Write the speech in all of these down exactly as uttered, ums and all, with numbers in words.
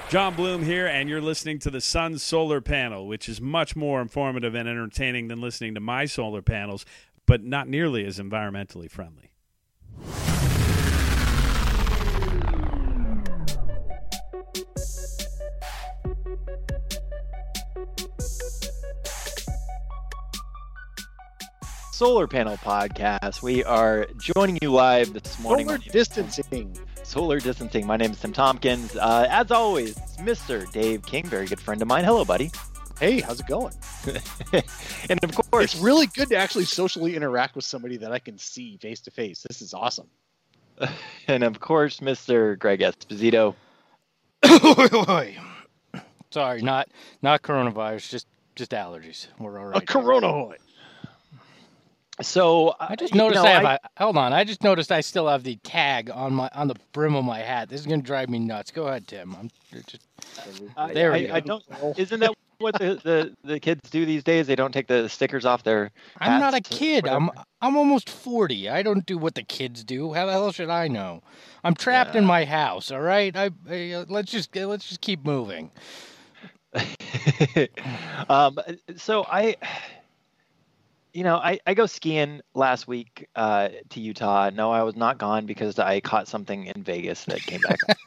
John Bloom here, and you're listening to the Sun Solar Panel, which is much more informative and entertaining than listening to my solar panels, but not nearly as environmentally friendly. Solar Panel Podcast. We are joining you live this morning. Solar distancing. Solar distancing. My name is Tim Tompkins. Uh, as always, Mister Dave King, very good friend of mine. Hello, buddy. Hey, how's it going? And of course, it's really good to actually socially interact with somebody that I can see face to face. This is awesome. And of course, Mister Greg Esposito. Sorry, not not coronavirus, just just allergies. We're all right. A corona. So I just uh, noticed you know, I have. I, a, hold on, I just noticed I still have the tag on my on the brim of my hat. This is gonna drive me nuts. Go ahead, Tim. I'm just I, there. I, We go. I don't. Isn't that what the, the, the kids do these days? They don't take the stickers off their. I'm not a hats, kid. whatever. I'm I'm almost forty. I don't do what the kids do. How the hell should I know? I'm trapped Yeah. in my house. All right. I, I uh, let's just let's just keep moving. um. So I. You know, I, I go skiing last week uh, to Utah. No, I was not gone because I caught something in Vegas that came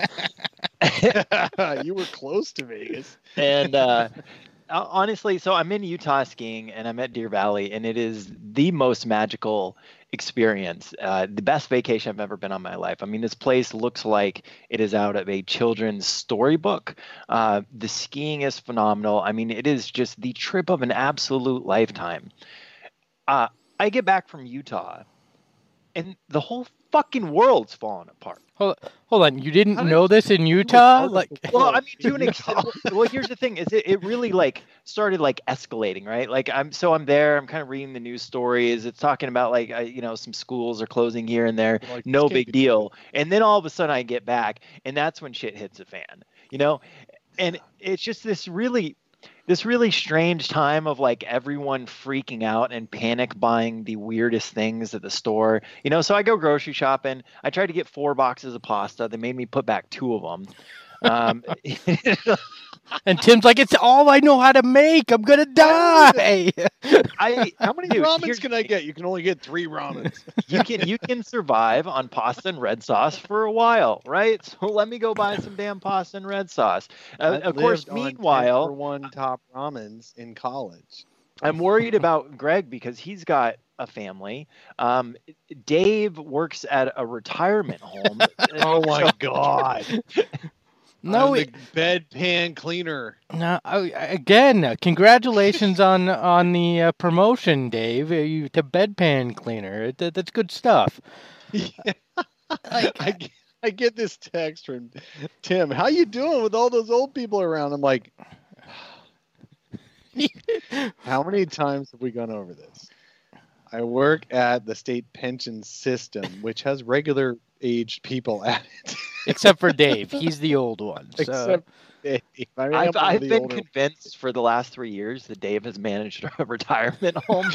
back. You were close to Vegas. And uh, honestly, so I'm in Utah skiing and I'm at Deer Valley, and it is the most magical experience, uh, the best vacation I've ever been on in my life. I mean, this place looks like it is out of a children's storybook. Uh, the skiing is phenomenal. I mean, it is just the trip of an absolute lifetime. Uh, I get back from Utah, and the whole fucking world's falling apart. Hold hold on. You didn't How did know this in Utah? Like, Well, I mean, to an extent. Well, here's the thing: is it, it really like started like escalating, right? Like I'm so I'm there. I'm kind of reading the news stories. It's talking about like I, you know some schools are closing here and there. Like, No this can't big be deal. And then all of a sudden I get back, and that's when shit hits the fan. You know, and it's just this really. This really strange time of like everyone freaking out and panic buying the weirdest things at the store. You know, so I go grocery shopping. I tried to get four boxes of pasta. They made me put back two of them. Um, and Tim's like, it's all I know how to make. I'm gonna die. I How many dude, ramens here's- can I get? You can only get three ramens. you can you can survive on pasta and red sauce for a while, right? So let me go buy some damn pasta and red sauce. Uh, I of course, lived on ten meanwhile, for one top ramens in college. I'm worried about Greg because he's got a family. Um, Dave works at a retirement home. Oh my god! No, I'm it, the bedpan cleaner. no. I- Again, uh, congratulations on on the uh, promotion, Dave. Uh, You to bedpan cleaner. That, that's good stuff. I, get- I get this text from Tim. How you doing with all those old people around? I'm like, how many times have we gone over this? I work at the state pension system, which has regular aged people at it. Except for Dave, he's the old one. So. Except Dave. I mean, I've, I'm one of I've the been older- convinced for the last three years that Dave has managed a retirement home.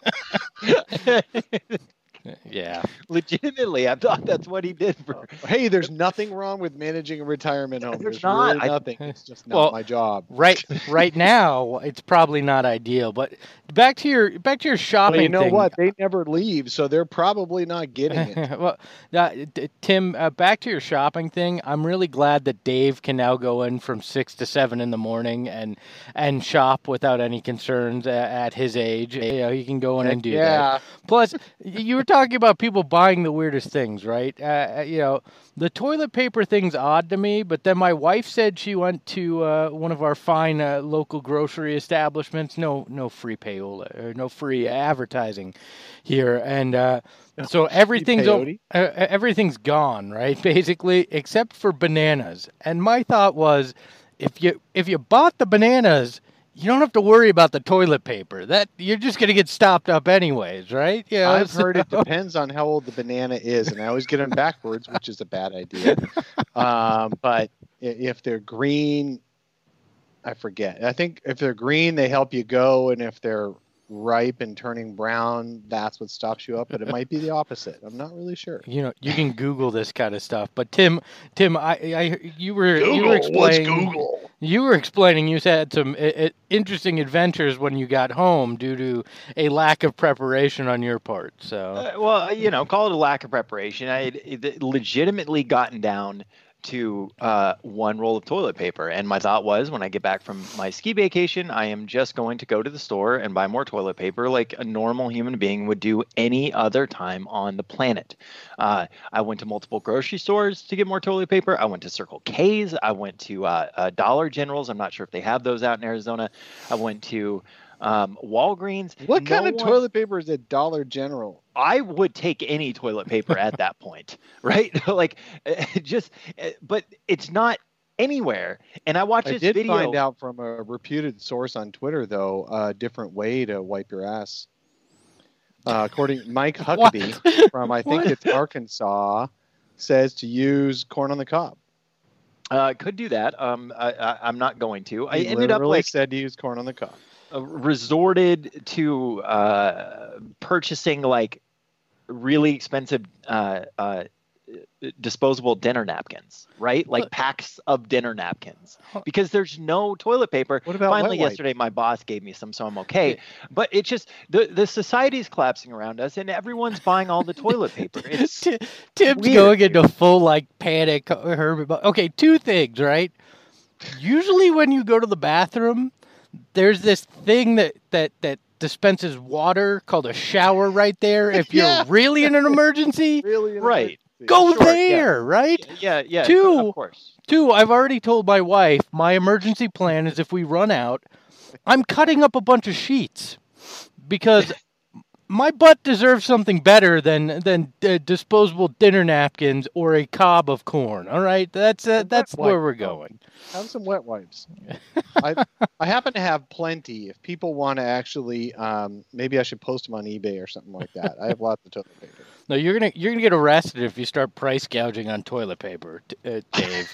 Yeah. Legitimately, I thought that's what he did for. Hey, there's nothing wrong with managing a retirement home. There's There's, not. really I- nothing. It's just not Well, my job. Right right now, it's probably not ideal. But back to your back to your shopping Well, you know thing. what? They never leave, so they're probably not getting it. well, uh, d- Tim, uh, back to your shopping thing. I'm really glad that Dave can now go in from six to seven in the morning and and shop without any concerns uh, at his age. You know, he can go in and do that. yeah. Plus, you were talking about people buying the weirdest things, right? Uh, you know, the toilet paper thing's odd to me, but then my wife said she went to uh, one of our fine uh, local grocery establishments. No, no free payola or no free advertising here, and uh, so everything's o- peyote? uh, everything's gone, right? Basically, except for bananas. And my thought was, if you if you bought the bananas, you don't have to worry about the toilet paper. That you're just gonna get stopped up anyways, right? You know, I've so- heard it depends on how old the banana is, and I always get them backwards, which is a bad idea. Um, but i- if they're green, I forget. I think if they're green, they help you go, and if they're ripe and turning brown, that's what stops you up. But it might be the opposite. I'm not really sure. You know, you can Google this kind of stuff. But Tim, Tim, I, I you were Google, you were explaining. What's Google? You were explaining you had some uh, interesting adventures when you got home due to a lack of preparation on your part. So, uh, well, you know, call it a lack of preparation. I had legitimately gotten down to uh, one roll of toilet paper. And my thought was, when I get back from my ski vacation, I am just going to go to the store and buy more toilet paper like a normal human being would do any other time on the planet. Uh, I went to multiple grocery stores to get more toilet paper. I went to Circle K's. I went to uh, uh, Dollar Generals. I'm not sure if they have those out in Arizona. I went to um, Walgreens. What No kind of one... toilet paper is at Dollar General? I would take any toilet paper at that point, right? Like, just, but it's not anywhere. And I watched I this did video. find out from a reputed source on Twitter, though, a different way to wipe your ass. Uh, according to Mike Huckabee from, I think it's Arkansas, says to use corn on the cob. Uh, could do that. Um, I, I, I'm not going to. I He ended up literally like said to use corn on the cob. uh, resorted to uh, purchasing like really expensive uh, uh, disposable dinner napkins, right? Like packs of dinner napkins, because there's no toilet paper. What about Finally, wet wipe? yesterday, my boss gave me some, so I'm okay. But it's just the the society's collapsing around us, and everyone's buying all the toilet paper. It's Ti- Tim's weird, going dude. into full like panic. Herb, okay, two things, right? Usually, when you go to the bathroom, there's this thing that that that dispenses water called a shower right there. If you're Yeah. really in an emergency, Really? an Right. emergency. go Sure, yeah. there, right? yeah, yeah. Two. Of course. Two, I've already told my wife my emergency plan is if we run out, I'm cutting up a bunch of sheets because my butt deserves something better than than uh, disposable dinner napkins or a cob of corn. All right, that's uh, wet that's where wipe. we're going. Have some wet wipes. I I happen to have plenty. If people want to actually, um, maybe I should post them on eBay or something like that. I have lots of toilet paper. No, you're gonna you're gonna get arrested if you start price gouging on toilet paper, t- uh, Dave.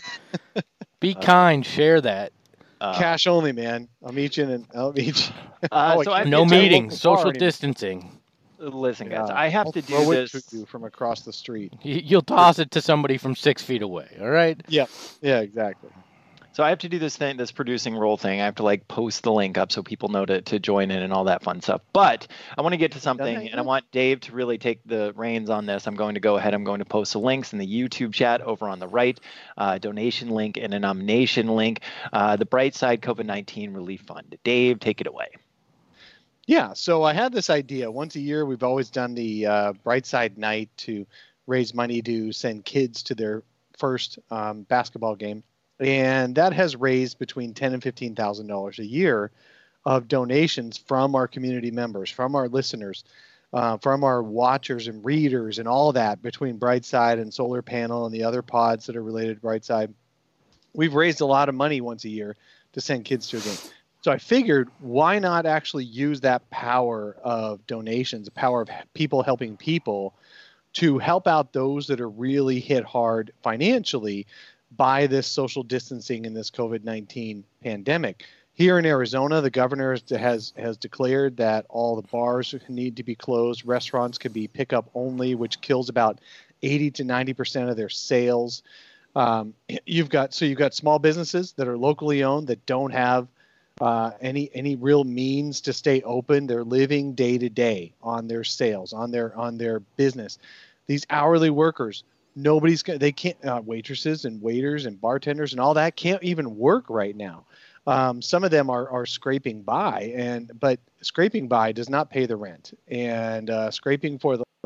Be kind, share that. Uh, Cash only, man. I'll meet you in. I'll meet you. uh, Oh, so I I can't No It's a meetings, local social bar anymore. distancing. Listen, guys, Yeah. I have I'll to do throw it this. to you from across the street. You- You'll toss it to somebody from six feet away. All right. Yeah, exactly. So I have to do this thing, this producing role thing. I have to like post the link up so people know to, to join in and all that fun stuff. But I want to get to something, Okay. and I want Dave to really take the reins on this. I'm going to go ahead. I'm going to post the links in the YouTube chat over on the right, uh, donation link and a nomination link. Uh, the Brightside COVID nineteen Relief Fund. Dave, take it away. Yeah, so I had this idea. Once a year, we've always done the uh, Brightside Night to raise money to send kids to their first um, basketball game, and that has raised between ten and fifteen thousand dollars a year of donations from our community members, from our listeners, uh, from our watchers and readers, and all that between Brightside and Solar Panel and the other pods that are related to Brightside. We've raised a lot of money once a year to send kids to a game. So I figured, why not actually use that power of donations, the power of people helping people, to help out those that are really hit hard financially by this social distancing and this COVID nineteen pandemic. Here in Arizona, the governor has has declared that all the bars need to be closed. Restaurants can be pickup only, which kills about eighty to ninety percent of their sales. Um, you've got so you've got small businesses that are locally owned that don't have uh, any any real means to stay open. They're living day to day on their sales, on their on their business. These hourly workers, nobody's they can't uh, waitresses and waiters and bartenders and all that can't even work right now. Um, some of them are are scraping by, and but scraping by does not pay the rent, and uh, scraping for the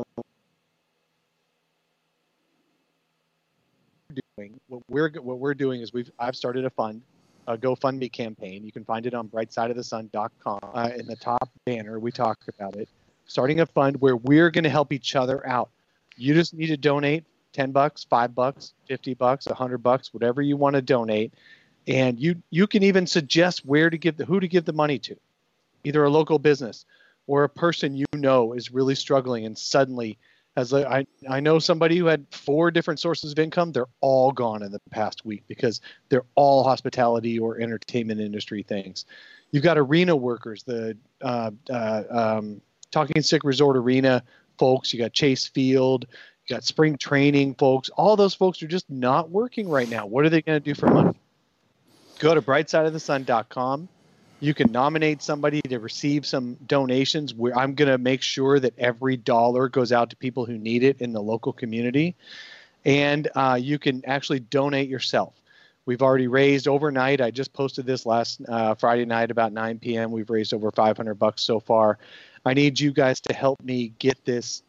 doing what we're what we're doing is we've I've started a fund, a GoFundMe campaign. You can find it on brightside of the sun dot com. Uh, in the top banner, we talk about it. Starting a fund where we're going to help each other out. You just need to donate ten bucks, five bucks, fifty bucks, a hundred bucks, whatever you want to donate. And you you can even suggest where to give the who to give the money to, either a local business or a person you know is really struggling and suddenly has a, I I know somebody who had four different sources of income. They're all gone in the past week because they're all hospitality or entertainment industry things. You've got arena workers, the uh, uh, um, Talking Stick Resort Arena folks. You got Chase Field. You got spring training folks. All those folks are just not working right now. What are they going to do for money? Go to bright side of the sun dot com. You can nominate somebody to receive some donations. Where I'm going to make sure that every dollar goes out to people who need it in the local community. And uh, you can actually donate yourself. We've already raised overnight. I just posted this last uh, Friday night about nine p.m. We've raised over five hundred bucks so far. I need you guys to help me get this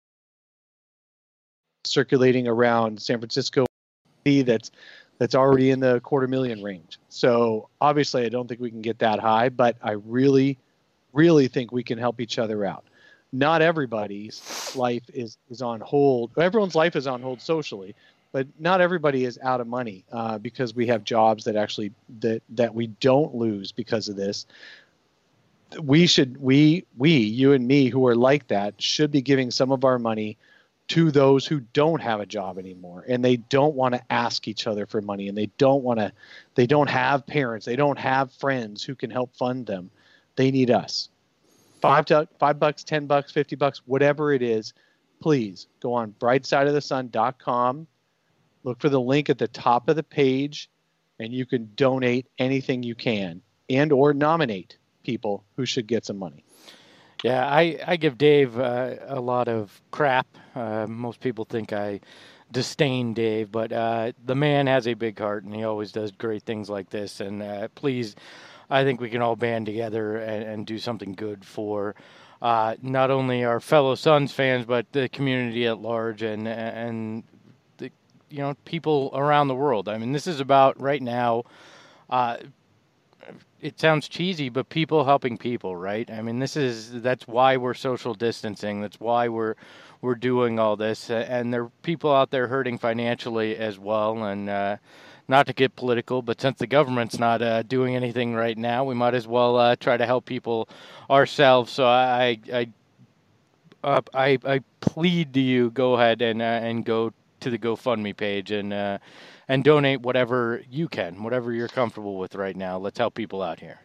circulating around San Francisco. That's that's already in the quarter million range. So obviously, I don't think we can get that high, but I really, really think we can help each other out. Not everybody's life is, is on hold. Everyone's life is on hold socially, but not everybody is out of money uh, because we have jobs that actually that that we don't lose because of this. We should we we you and me who are like that should be giving some of our money to those who don't have a job anymore, and they don't want to ask each other for money, and they don't want to they don't have parents, they don't have friends who can help fund them. They need us. Five to five bucks, ten bucks, fifty bucks, whatever it is, please go on bright side of the sun dot com. Look for the link at the top of the page, and you can donate anything you can and or nominate people who should get some money. Yeah, I, I give Dave uh, a lot of crap. Uh, most people think I disdain Dave, but uh, the man has a big heart, and he always does great things like this. And uh, please, I think we can all band together and, and do something good for uh, not only our fellow Suns fans, but the community at large and and the, you know, people around the world. I mean, this is about right now. Uh, it sounds cheesy, but people helping people, right? I mean, this is that's why we're social distancing. That's why we're we're doing all this, and there are people out there hurting financially as well. And uh, not to get political, but since the government's not uh, doing anything right now, we might as well uh, try to help people ourselves. So I I uh, I, I plead to you, go ahead and uh, and go to the GoFundMe page and. Uh, And donate whatever you can, whatever you're comfortable with right now. Let's help people out here.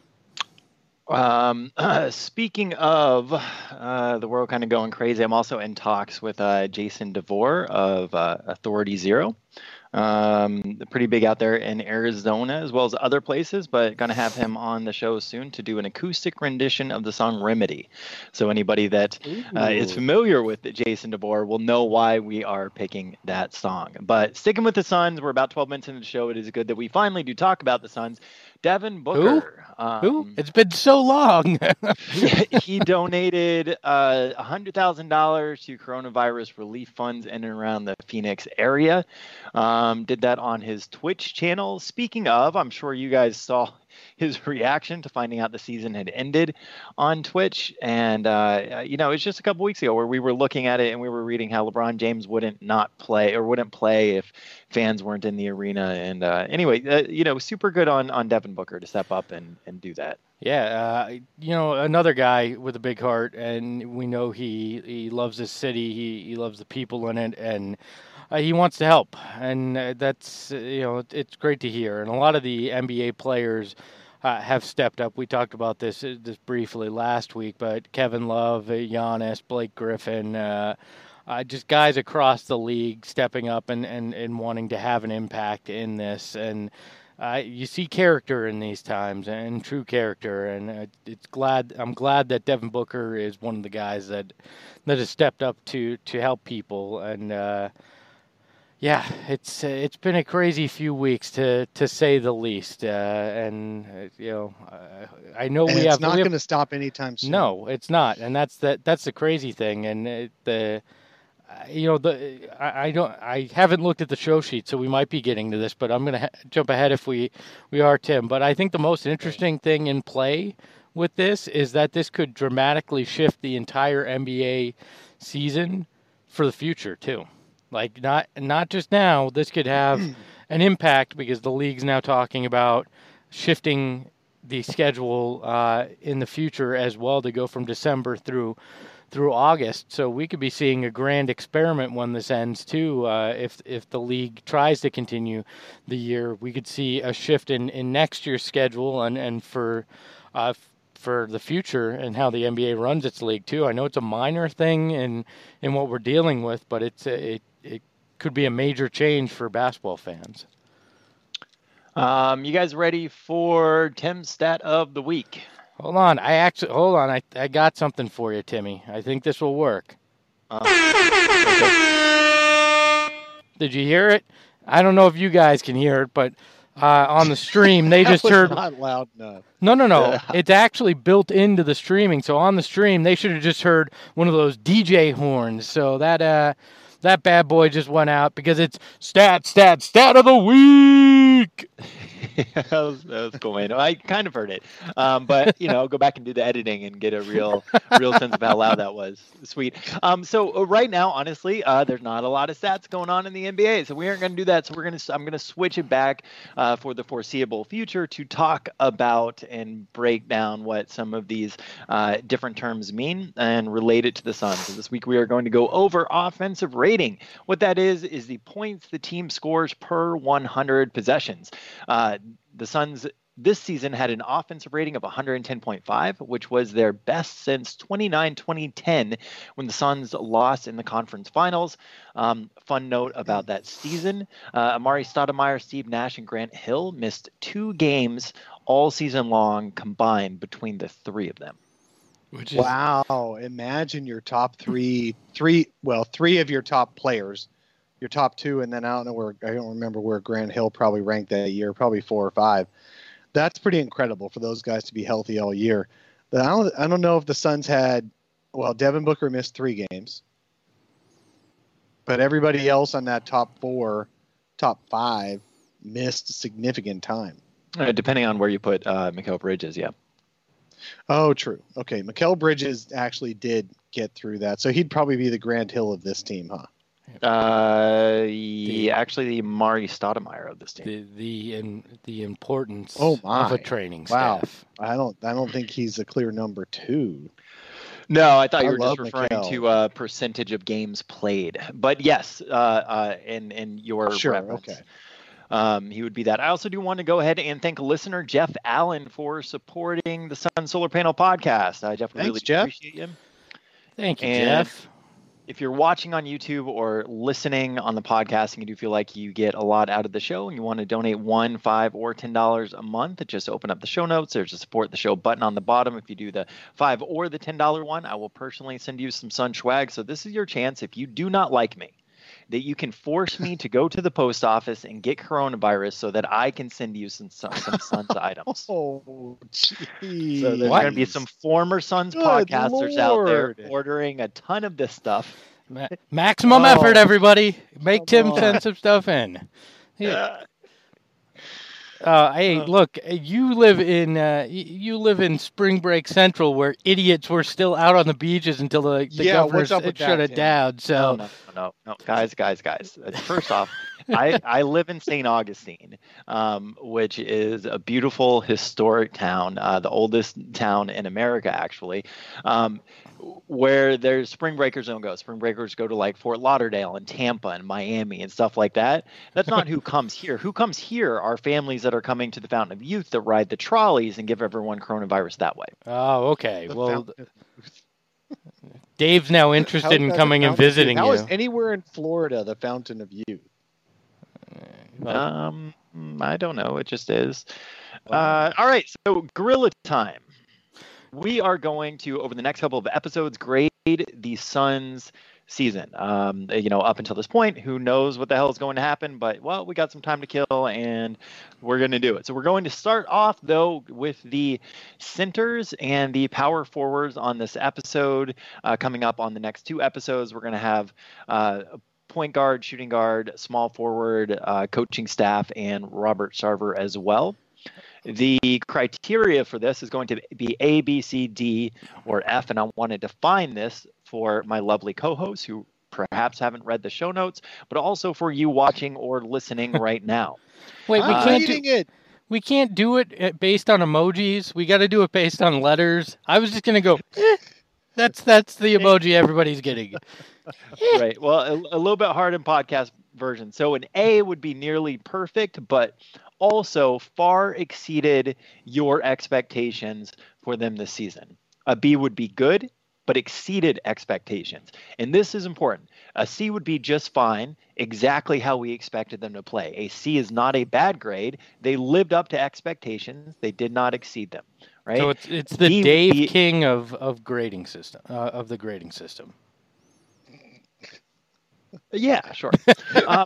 Um, uh, speaking of uh, the world kind of going crazy, I'm also in talks with uh, Jason DeVore of uh, Authority Zero. Um, pretty big out there in Arizona as well as other places, but going to have him on the show soon to do an acoustic rendition of the song Remedy. So anybody that uh, is familiar with Jason DeVore will know why we are picking that song. But sticking with the Suns, we're about twelve minutes into the show. It is good that we finally do talk about the Suns. Devin Booker. Who? Um, Who? It's been so long. He donated uh, one hundred thousand dollars to coronavirus relief funds in and around the Phoenix area. Um, did that on his Twitch channel. Speaking of, I'm sure you guys saw his reaction to finding out the season had ended on Twitch. And, uh, you know, it's just a couple weeks ago where we were looking at it and we were reading how LeBron James wouldn't not play or wouldn't play if fans weren't in the arena. And uh, anyway, uh, you know, super good on, on Devin Booker to step up and, and do that. Yeah, uh, you know, another guy with a big heart, and we know he, he loves his city, he, he loves the people in it, and uh, he wants to help. And uh, that's, uh, you know, it's great to hear. And a lot of the N B A players uh, have stepped up. We talked about this uh, this briefly last week, but Kevin Love, uh, Giannis, Blake Griffin, uh, uh, just guys across the league stepping up and, and, and wanting to have an impact in this. And Uh, you see character in these times, and true character, and uh, it's glad. I'm glad that Devin Booker is one of the guys that that has stepped up to to help people. And uh, yeah, it's uh, it's been a crazy few weeks to to say the least. Uh, and uh, you know, uh, I know and we it's have. It's not we going to stop anytime soon. No, it's not, and that's the that's the crazy thing, and it, the. You know, the I, I don't I haven't looked at the show sheet, so we might be getting to this, but I'm going to ha- jump ahead if we, we are, Tim. But I think the most interesting thing in play with this is that this could dramatically shift the entire N B A season for the future, too. Like, not not just now, this could have an impact because the league's now talking about shifting the schedule uh, in the future as well to go from December through through August. So we could be seeing a grand experiment when this ends too. Uh, if if the league tries to continue the year, we could see a shift in, in next year's schedule and and for uh, for the future and how the N B A runs its league too. I know it's a minor thing in in what we're dealing with, but it's a, it it could be a major change for basketball fans. Um, you guys ready for Tim's stat of the week? Hold on, I actually hold on. I I got something for you, Timmy. I think this will work. Uh, okay. Did you hear it? I don't know if you guys can hear it, but uh, on the stream they That just was heard. not loud enough. No, no, no. It's actually built into the streaming. So on the stream, they should have just heard one of those D J horns. So that uh, that bad boy just went out because it's stat, stat, stat of the week. that, was, that was cool, man. I kind of heard it, um, but you know, go back and do the editing and get a real, real sense of how loud that was. Sweet. Um, so uh, right now, honestly, uh, there's not a lot of stats going on in the N B A, so we aren't going to do that. So we're gonna, I'm gonna switch it back uh, for the foreseeable future to talk about and break down what some of these uh, different terms mean and relate it to the Suns. So this week we are going to go over offensive rating. What that is is the points the team scores per one hundred possessions. Uh, the Suns this season had an offensive rating of one ten point five, which was their best since twenty-nine twenty ten when the Suns lost in the conference finals. Um, fun note about that season, uh, Amari Stoudemire, Steve Nash, and Grant Hill missed two games all season long combined between the three of them. Which is, Wow! Imagine your top three, three well, three of your top players, your top two, and then I don't know where I don't remember where Grant Hill probably ranked that year, probably four or five. That's pretty incredible for those guys to be healthy all year. But I don't, I don't know if the Suns had, well, Devin Booker missed three games, but everybody else on that top four, top five, missed significant time. Uh, depending on where you put uh, Mikal Bridges, yeah. Oh, true. Okay, Mikal Bridges actually did get through that, so he'd probably be the Grant Hill of this team, huh? Uh, the, actually, the Amari Stoudemire of this team. the the in, the importance Oh my. of a training Wow. staff. I don't, I don't think he's a clear number two. No, I thought you I were just love referring Mikal. to uh, percentage of games played. But yes, uh, uh, in in your Sure, reference, okay. um, he would be that. I also do want to go ahead and thank listener Jeff Allen for supporting the Sun Solar Panel podcast. Uh, Jeff, we Thanks, really Jeff. appreciate you. Thank you, And- Jeff. If you're watching on YouTube or listening on the podcast and you do feel like you get a lot out of the show and you want to donate one, five, or ten dollars a month, just open up the show notes. There's a support the show button on the bottom. If you do the five or the ten dollar one, I will personally send you some Sun swag. So this is your chance, if you do not like me, that you can force me to go to the post office and get coronavirus so that I can send you some some, some Suns items. Oh, geez. So there's What? going to be some former Suns Good podcasters out there Lord. ordering a ton of this stuff. Ma- maximum Oh, effort, everybody. Make come Tim on. send some stuff in. Yeah. Uh, hey, look, you live in uh, y- you live in Spring Break Central, where idiots were still out on the beaches until the, the Yeah, governor what's up with shut that, it Tim? down. No, So no, no, no, guys, guys, guys. Uh, First off, I, I live in Saint Augustine, um, which is a beautiful historic town, uh, the oldest town in America, actually, um, where there's spring breakers don't go. Spring breakers go to like Fort Lauderdale and Tampa and Miami and stuff like that. That's not who comes here. Who comes here are families that are coming to the Fountain of Youth that ride the trolleys and give everyone coronavirus that way. oh, okay. The Well, fountain- Dave's now How interested is in that the coming and Fountain of Youth? visiting How you. is anywhere in Florida the Fountain of Youth? Well, Um, I don't know. It just is. Uh, all right. So gorilla time. We are going to, over the next couple of episodes, grade the Suns season. Um, you know, up until this point, who knows what the hell is going to happen? But well, we got some time to kill, and we're going to do it. So we're going to start off though with the centers and the power forwards on this episode. Uh, coming up on the next two episodes, we're going to have uh, point guard, shooting guard, small forward, uh, coaching staff, and Robert Sarver as well. The criteria for this is going to be A, B, C, D, or F, and I want to define this for my lovely co-hosts who perhaps haven't read the show notes, but also for you watching or listening right now. wait, we I'm can't do, reading it. we can't do it uh, based on emojis. We got to do it based on letters. I was just gonna go. Eh, That's that's the emoji everybody's getting. Right. Well, a, a little bit hard in podcast version. So an A would be nearly perfect, but also far exceeded your expectations for them this season. A B would be good, but exceeded expectations. And this is important. A C would be just fine, exactly how we expected them to play. A C is not a bad grade. They lived up to expectations. They did not exceed them. Right. So it's it's the D Dave be, King of of grading system uh, of the grading system. Yeah, sure. um,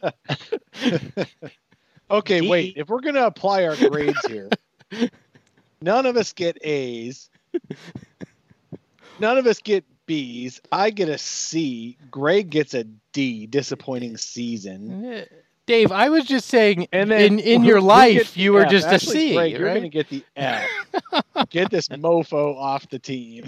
okay, D, wait. If we're going to apply our grades here, none of us get A's. None of us get B's. I get a C. Greg gets a D. Disappointing season. Dave, I was just saying, and then in, in your life, you were F. just Actually, a C, Greg, right? You're going to get the F. Get this mofo off the team.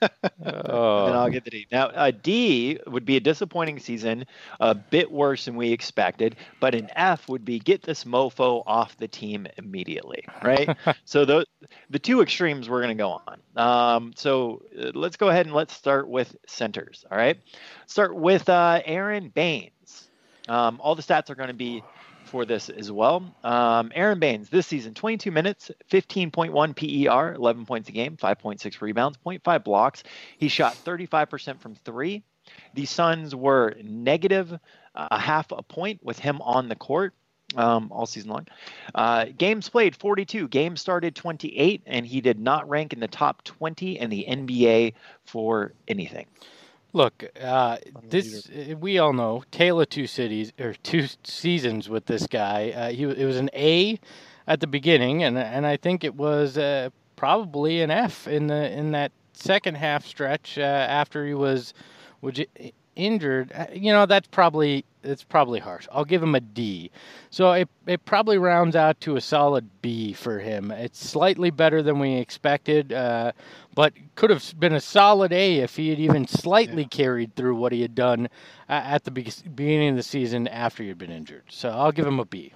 Oh. And I'll get the D. Now, a D would be a disappointing season, a bit worse than we expected, but an F would be get this mofo off the team immediately, right? So the the two extremes we're going to go on. Um, so uh, let's go ahead and let's start with centers, all right? Start with uh, Aaron Baines. Um, all the stats are going to be for this as well. Um, Aaron Baines, this season, twenty-two minutes, fifteen point one P E R, eleven points a game, five point six rebounds, zero point five blocks. He shot thirty-five percent from three. The Suns were negative uh, a half a point with him on the court um, all season long. Uh, games played, forty-two. Games started, twenty-eight, and he did not rank in the top twenty in the N B A for anything. Look, uh, this we all know tale of two cities or two seasons with this guy. Uh, he it was an A at the beginning, and and I think it was uh, probably an F in the in that second half stretch uh, after he was was injured. You know, that's probably it's probably harsh. I'll give him a D. So it it probably rounds out to a solid B for him. It's slightly better than we expected. Uh, But could have been a solid A if he had even slightly yeah. carried through what he had done uh, at the be- beginning of the season after he had been injured. So I'll give him a B.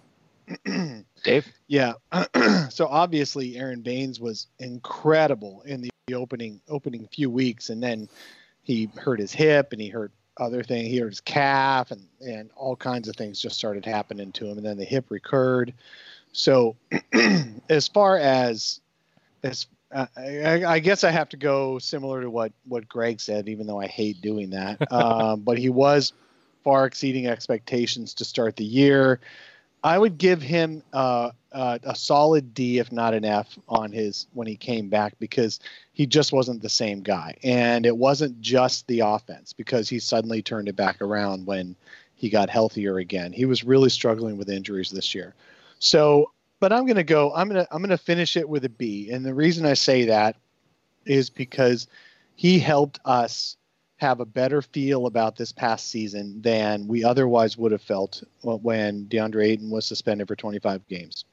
Dave? Yeah. So obviously Aaron Baines was incredible in the opening opening few weeks, and then he hurt his hip and he hurt other things. He hurt his calf, and, and all kinds of things just started happening to him, and then the hip recurred. So as far as as Uh, I, I guess I have to go similar to what, what Greg said, even though I hate doing that. Um, but he was far exceeding expectations to start the year. I would give him uh, uh, a solid D, if not an F, on his when he came back, because he just wasn't the same guy. And it wasn't just the offense, because he suddenly turned it back around when he got healthier again. He was really struggling with injuries this year. So. But I'm going to go, I'm going to, I'm going to finish it with a B. And the reason I say that is because he helped us have a better feel about this past season than we otherwise would have felt when DeAndre Ayton was suspended for twenty-five games.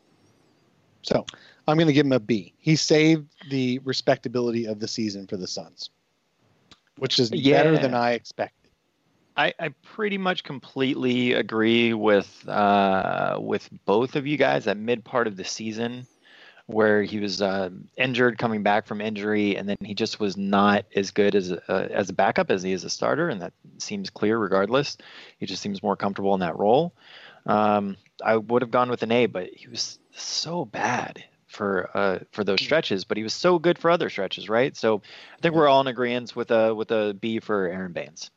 So I'm going to give him a B. He saved the respectability of the season for the Suns, which is yeah. better than I expected. I, I pretty much completely agree with uh, with both of you guys. That mid part of the season, where he was uh, injured, coming back from injury, and then he just was not as good as a, uh, as a backup as he is a starter, and that seems clear. Regardless, he just seems more comfortable in that role. Um, I would have gone with an A, but he was so bad for uh, for those stretches, but he was so good for other stretches, right? So I think we're all in agreement with a with a B for Aaron Baines.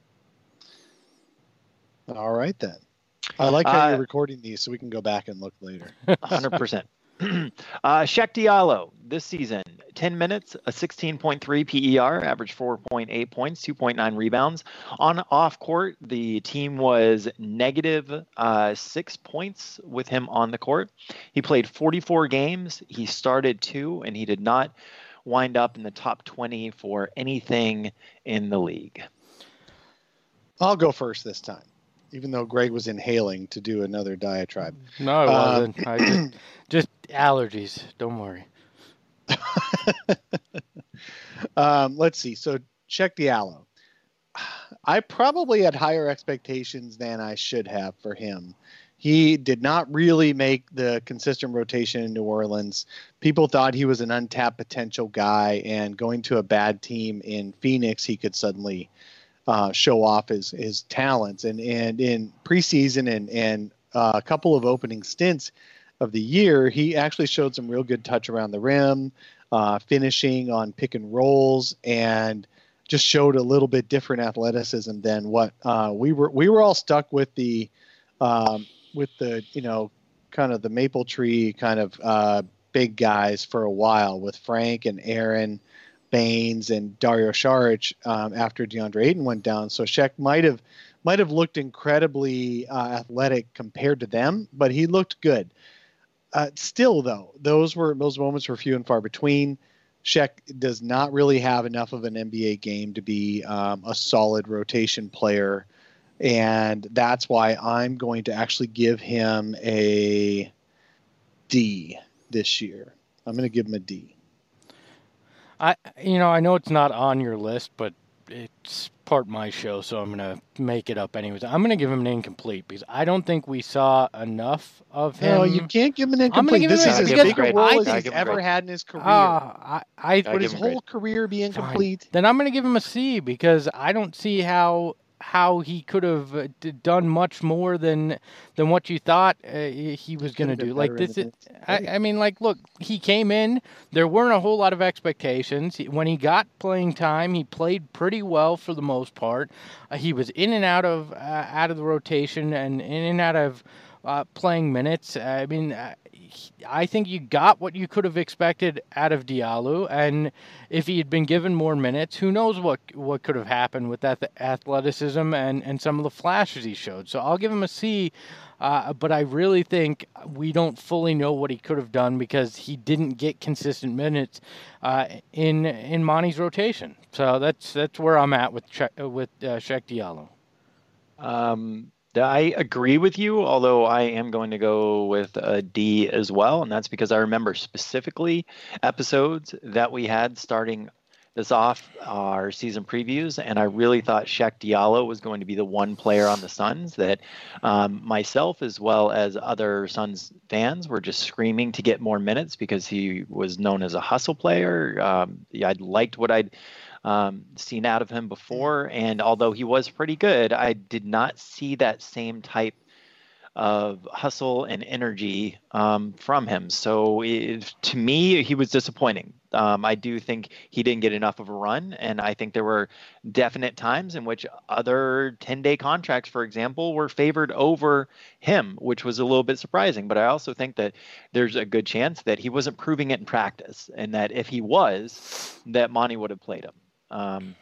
All right, then. I like how uh, you're recording these so we can go back and look later. one hundred percent. uh, Cheick Diallo, this season, ten minutes, a sixteen point three P E R, averaged four point eight points, two point nine rebounds. On off court, the team was negative uh, six points with him on the court. He played forty-four games. He started two, and he did not wind up in the top twenty for anything in the league. I'll go first this time, even though Greg was inhaling to do another diatribe. No, it um, wasn't. I just, just allergies. Don't worry. um, let's see. So Cheick Diallo. I probably had higher expectations than I should have for him. He did not really make the consistent rotation in New Orleans. People thought he was an untapped potential guy, and going to a bad team in Phoenix, he could suddenly uh, show off his his talents. And and in preseason and and uh, a couple of opening stints of the year, he actually showed some real good touch around the rim, uh, finishing on pick and rolls, and just showed a little bit different athleticism than what uh, we were. We were all stuck with the. Um, with the, you know, kind of the maple tree kind of uh, big guys for a while with Frank and Aaron Baines and Dario Saric um, after DeAndre Ayton went down. So Sheck might have might have looked incredibly uh, athletic compared to them, but he looked good. Uh, still, though, those were those moments were few and far between. Sheck does not really have enough of an N B A game to be um, a solid rotation player. And that's why I'm going to actually give him a D this year. I'm going to give him a D. I, you know, I know it's not on your list, but it's part of my show, so I'm going to make it up anyways. I'm going to give him an incomplete because I don't think we saw enough of him. No, you can't give him an incomplete. This is as big a role as he's ever had in his career. Uh, I, I, Would his whole career be incomplete? Fine. Then I'm going to give him a C because I don't see how... how he could have done much more than than what you thought uh, he was going to do. Like this, is, I, I mean, like, look, he came in. There weren't a whole lot of expectations. When he got playing time, he played pretty well for the most part. Uh, he was in and out of uh, out of the rotation and in and out of uh, playing minutes. I mean, uh, I think you got what you could have expected out of Diallo, and if he had been given more minutes, who knows what what could have happened with that athleticism and, and some of the flashes he showed. So I'll give him a C, uh, but I really think we don't fully know what he could have done because he didn't get consistent minutes uh, in in Monty's rotation. So that's that's where I'm at with che- with uh, Sheck Diallo. Um. I agree with you, although I am going to go with a D as well, and that's because I remember specifically episodes that we had starting this off our season previews, and I really thought Sheck Diallo was going to be the one player on the Suns that um, myself as well as other Suns fans were just screaming to get more minutes because he was known as a hustle player. Um, yeah, I'd liked what I'd Um, seen out of him before, and although he was pretty good, I did not see that same type of hustle and energy um, from him. So it, to me, he was disappointing. Um, I do think he didn't get enough of a run, and I think there were definite times in which other ten-day contracts, for example, were favored over him, which was a little bit surprising. But I also think that there's a good chance that he wasn't proving it in practice, and that if he was, that Monty would have played him. Um,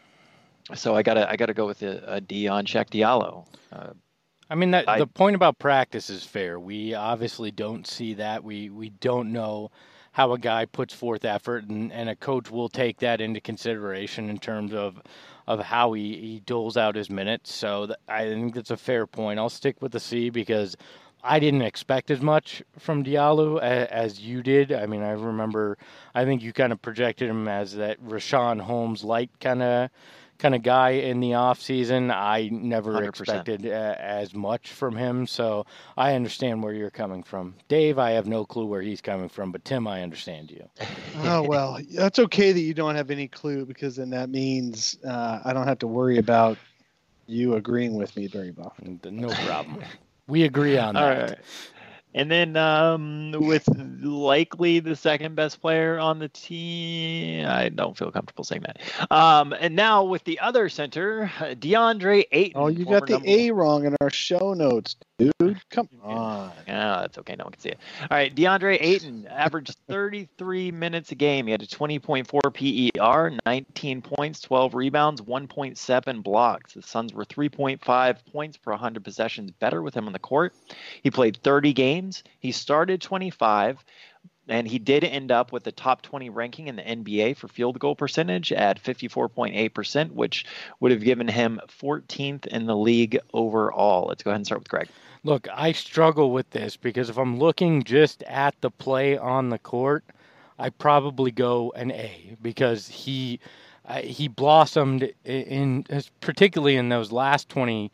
so I gotta I gotta go with a, a D on Sheck Diallo. Uh, I mean, that, I, the point about practice is fair. We obviously don't see that. We we don't know how a guy puts forth effort, and, and a coach will take that into consideration in terms of of how he, he doles out his minutes. So th- I think that's a fair point. I'll stick with the C because I didn't expect as much from Diallo as, as you did. I mean, I remember, I think you kind of projected him as that Rashawn Holmes light kind of kind of guy in the offseason. I never one hundred percent expected uh, as much from him, so I understand where you're coming from. Dave, I have no clue where he's coming from, but Tim, I understand you. Oh, well, that's okay that you don't have any clue because then that means uh, I don't have to worry about you agreeing with me very often. No problem. We agree on that. All right. And then um, with likely the second best player on the team, I don't feel comfortable saying that. Um, and now with the other center, DeAndre Ayton. Oh, you got the A wrong in our show notes, dude. Come on. Yeah, that's okay. No one can see it. All right, DeAndre Ayton averaged thirty-three minutes a game. He had a twenty point four P E R, nineteen points, twelve rebounds, one point seven blocks. The Suns were three point five points per one hundred possessions better with him on the court. He played thirty games. He started twenty-five, and he did end up with the top twenty ranking in the N B A for field goal percentage at fifty-four point eight percent, which would have given him fourteenth in the league overall. Let's go ahead and start with Greg. Look, I struggle with this because if I'm looking just at the play on the court, I probably go an A because he uh, he blossomed in, in particularly in those last twenty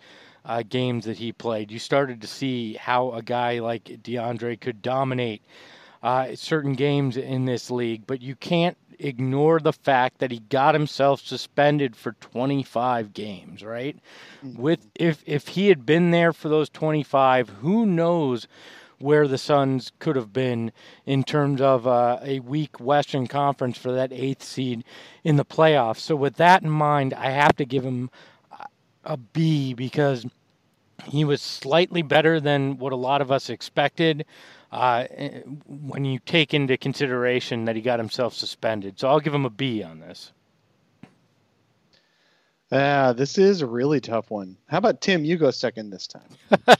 uh, games that he played. You started to see how a guy like DeAndre could dominate uh, certain games in this league, but you can't ignore the fact that he got himself suspended for twenty-five games, right? Mm-hmm. With if if he had been there for those twenty-five, who knows where the Suns could have been in terms of uh, a weak Western Conference for that eighth seed in the playoffs. So with that in mind, I have to give him a B because he was slightly better than what a lot of us expected uh, when you take into consideration that he got himself suspended. So I'll give him a B on this. Uh, this is a really tough one. How about Tim? You go second this time.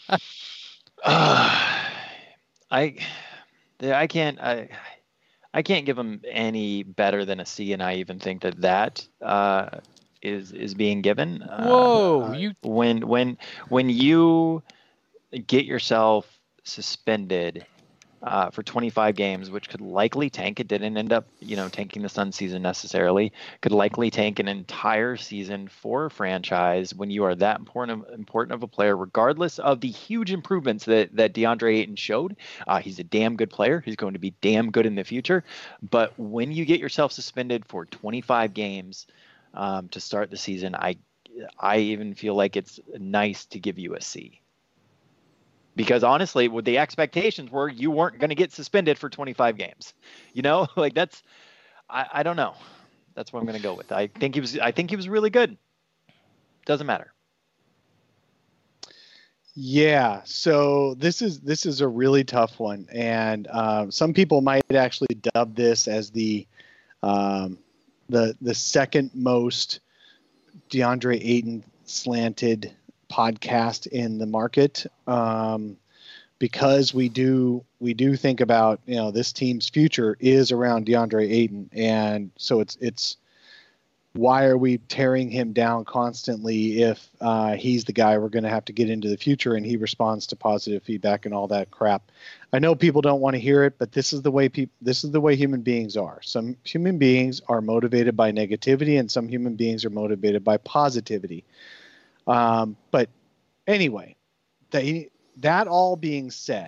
Uh, I, I can't, I, I can't give him any better than a C, and I even think that that uh, is is being given. Whoa! Uh, you when when when you get yourself suspended uh, for twenty-five games, which could likely tank. It didn't end up, you know, tanking the Suns season necessarily. Could likely tank an entire season for a franchise when you are that important of, important of a player, regardless of the huge improvements that, that DeAndre Ayton showed. Uh, he's a damn good player. He's going to be damn good in the future. But when you get yourself suspended for twenty-five games um, to start the season, I I even feel like it's nice to give you a C. Because honestly, what the expectations were, you weren't going to get suspended for twenty-five games. You know, like that's, I, I don't know. That's what I'm going to go with. I think he was, I think he was really good. Doesn't matter. Yeah. So this is, this is a really tough one. And uh, some people might actually dub this as the, um, the, the second most DeAndre Ayton slanted podcast in the market, um, because we do we do think about, you know, this team's future is around DeAndre Ayton, and so it's it's why are we tearing him down constantly if uh, he's the guy we're going to have to get into the future, and he responds to positive feedback and all that crap. I know people don't want to hear it, but this is the way people this is the way human beings are. Some human beings are motivated by negativity, and some human beings are motivated by positivity. Um, but anyway, they, that all being said,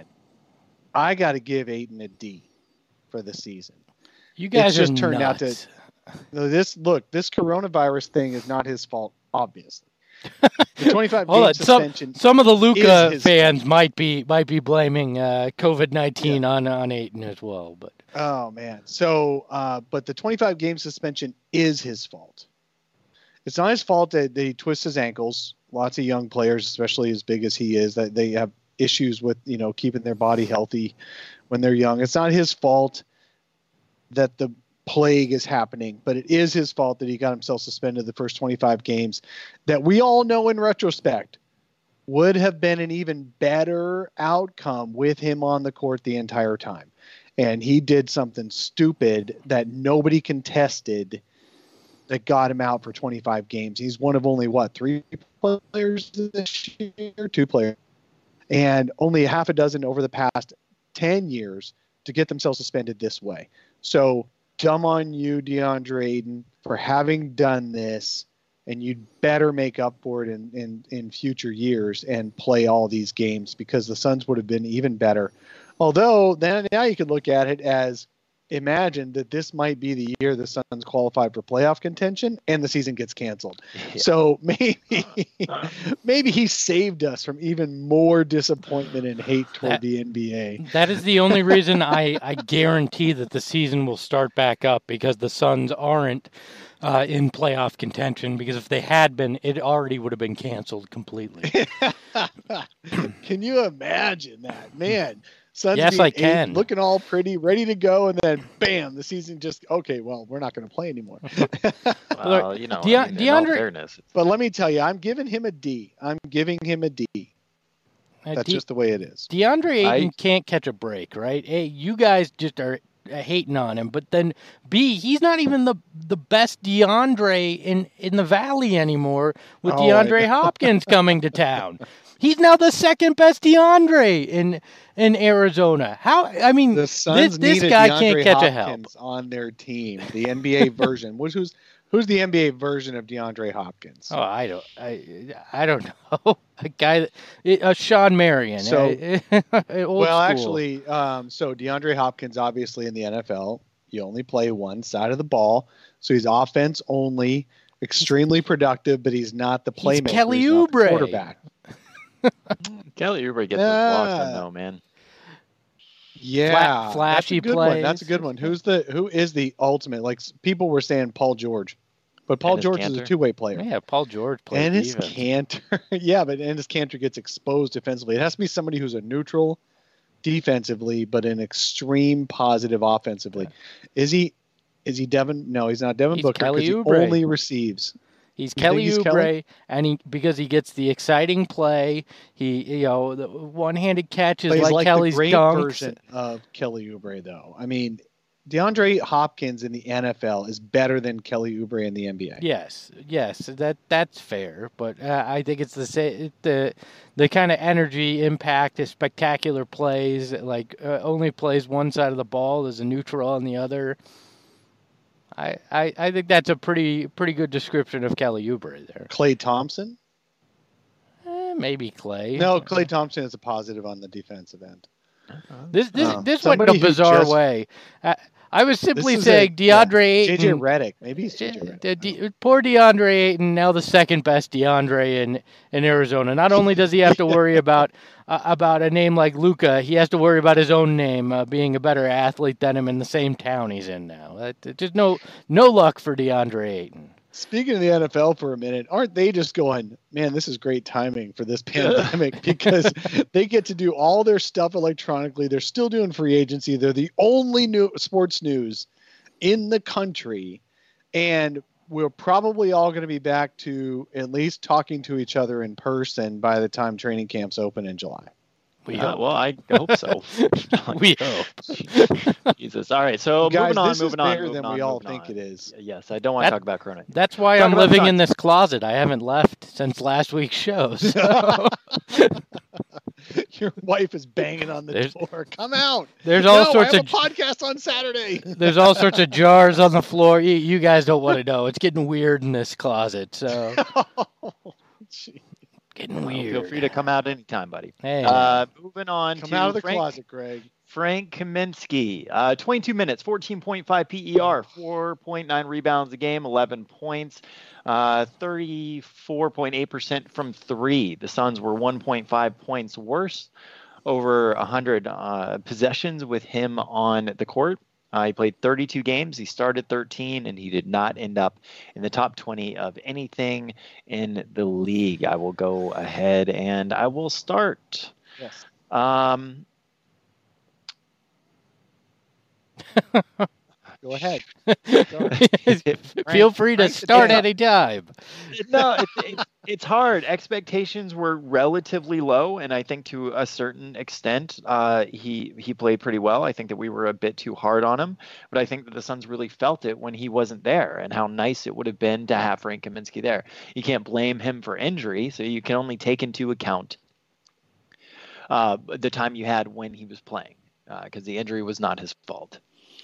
I got to give Ayton a D for the season. You guys it's just are turned nuts. out to this. Look, this coronavirus thing is not his fault, obviously. The twenty-five game suspension. Some, some of the Luka his fans fault. might be might be blaming uh, COVID nineteen yeah. on on Ayton as well. But oh man, so uh, but the twenty-five game suspension is his fault. It's not his fault that they twist his ankles. Lots of young players, especially as big as he is, that they have issues with, you know, keeping their body healthy when they're young. It's not his fault that the plague is happening, but it is his fault that he got himself suspended the first twenty-five games that we all know in retrospect would have been an even better outcome with him on the court the entire time. And he did something stupid that nobody contested that got him out for twenty-five games. He's one of only, what, three players this year? Two players. And only half a dozen over the past ten years to get themselves suspended this way. So dumb on you, DeAndre Ayton, for having done this, and you'd better make up for it in, in, in future years and play all these games, because the Suns would have been even better. Although, then now you could look at it as, imagine that this might be the year the Suns qualify for playoff contention and the season gets canceled. Yeah. So maybe maybe he saved us from even more disappointment and hate toward that, the N B A. That is the only reason I, I guarantee that the season will start back up, because the Suns aren't uh, in playoff contention, because if they had been, it already would have been canceled completely. Can you imagine that, man? Suns yes, I can. Eight, looking all pretty, ready to go, and then bam, the season just okay. Well, we're not going to play anymore. Well, you know, De- I mean, in DeAndre, all fairness, but let me tell you, I'm giving him a D. I'm giving him a D. Uh, That's De- just the way it is. DeAndre Ayton I, can't catch a break, right? Hey, you guys just are hating on him, but then B, he's not even the the best DeAndre in in the Valley anymore with oh, DeAndre Hopkins coming to town. He's now the second best DeAndre in in Arizona. How? I mean, the Suns this, this need guy DeAndre can't catch Hopkins a help on their team. The N B A version, which was Who's the N B A version of DeAndre Hopkins? Oh, I don't, I, I don't know. A guy that, uh, Sean Marion. So, uh, old well, school. actually, um, so DeAndre Hopkins, obviously in the N F L, you only play one side of the ball, so he's offense only, extremely productive, but he's not the playmaker. He's Kelly he's not the Oubre. quarterback. Kelly Oubre gets Yeah. those blocks in though, man. Yeah, Fla- flashy that's a good one. plays. That's a good one. Who's the who is the ultimate? Like s- people were saying, Paul George, but Paul Enes George is Kanter. a two-way player. Yeah, Paul George plays And his defense. Cantor, yeah, but and his Cantor gets exposed defensively. It has to be somebody who's a neutral defensively, but an extreme positive offensively. Is he? Is he Devin? No, he's not Devin He's Booker Kelly because he Oubre. only receives. He's You Kelly think he's Oubre, Kelly? and he because he gets the exciting play. He, you know, the one-handed catches But he's like, like Kelly's the great dunks. version of Kelly Oubre, though. I mean, DeAndre Hopkins in the N F L is better than Kelly Oubre in the N B A. Yes, yes, that that's fair, but uh, I think it's the sa- the the kind of energy, impact, the spectacular plays. Like uh, only plays one side of the ball, there's a neutral on the other. I, I, I think that's a pretty pretty good description of Kelly Oubre there. Clay Thompson? Eh, maybe Clay. No, Clay Thompson is a positive on the defensive end. This this Um, this went in somebody a who bizarre just- way. I, I was simply This is saying a- yeah, DeAndre Ayton. J J Redick. Maybe he's J J D- Redick. D- poor DeAndre Ayton, now the second best DeAndre in, in Arizona. Not only does he have to worry about uh, about a name like Luca, he has to worry about his own name uh, being a better athlete than him in the same town he's in now. Uh, just no no luck for DeAndre Ayton. Speaking of the N F L for a minute, aren't they just going, man, this is great timing for this pandemic because they get to do all their stuff electronically. They're still doing free agency. They're the only new sports news in the country. And we're probably all going to be back to at least talking to each other in person by the time training camps open in July. We Uh, hope. well, I hope so. we hope. Jesus. All right. So Guys, moving on, this moving is on, bigger moving than on, we all moving think on. it is. Yes, I don't want That- to talk about Corona. That's why Talk I'm about living Suns. in this closet. I haven't left since last week's show. So. Your wife is banging on the There's- door. Come out. There's all no, sorts I of have a podcast on Saturday. There's all sorts of jars on the floor. You, you guys don't want to know. It's getting weird in this closet. So Gee. getting Well, weird. feel free to come out anytime, buddy. Hey. Uh, moving on Come to out of the Frank, closet, Greg. Frank Kaminsky. Uh, twenty-two minutes, fourteen point five P E R, four point nine rebounds a game, eleven points, uh, thirty-four point eight percent from three. The Suns were one point five points worse, over one hundred uh, possessions with him on the court. Uh, he played thirty-two games. He started thirteen, and he did not end up in the top twenty of anything in the league. I will go ahead and I will start. Yes. Um, Go ahead. Feel free to Frank, start yeah. any time. no, it, it, it's hard. Expectations were relatively low, and I think to a certain extent, uh, he he played pretty well. I think that we were a bit too hard on him, but I think that the Suns really felt it when he wasn't there, and how nice it would have been to have Frank Kaminsky there. You can't blame him for injury, so you can only take into account uh, the time you had when he was playing, because the injury was not his fault.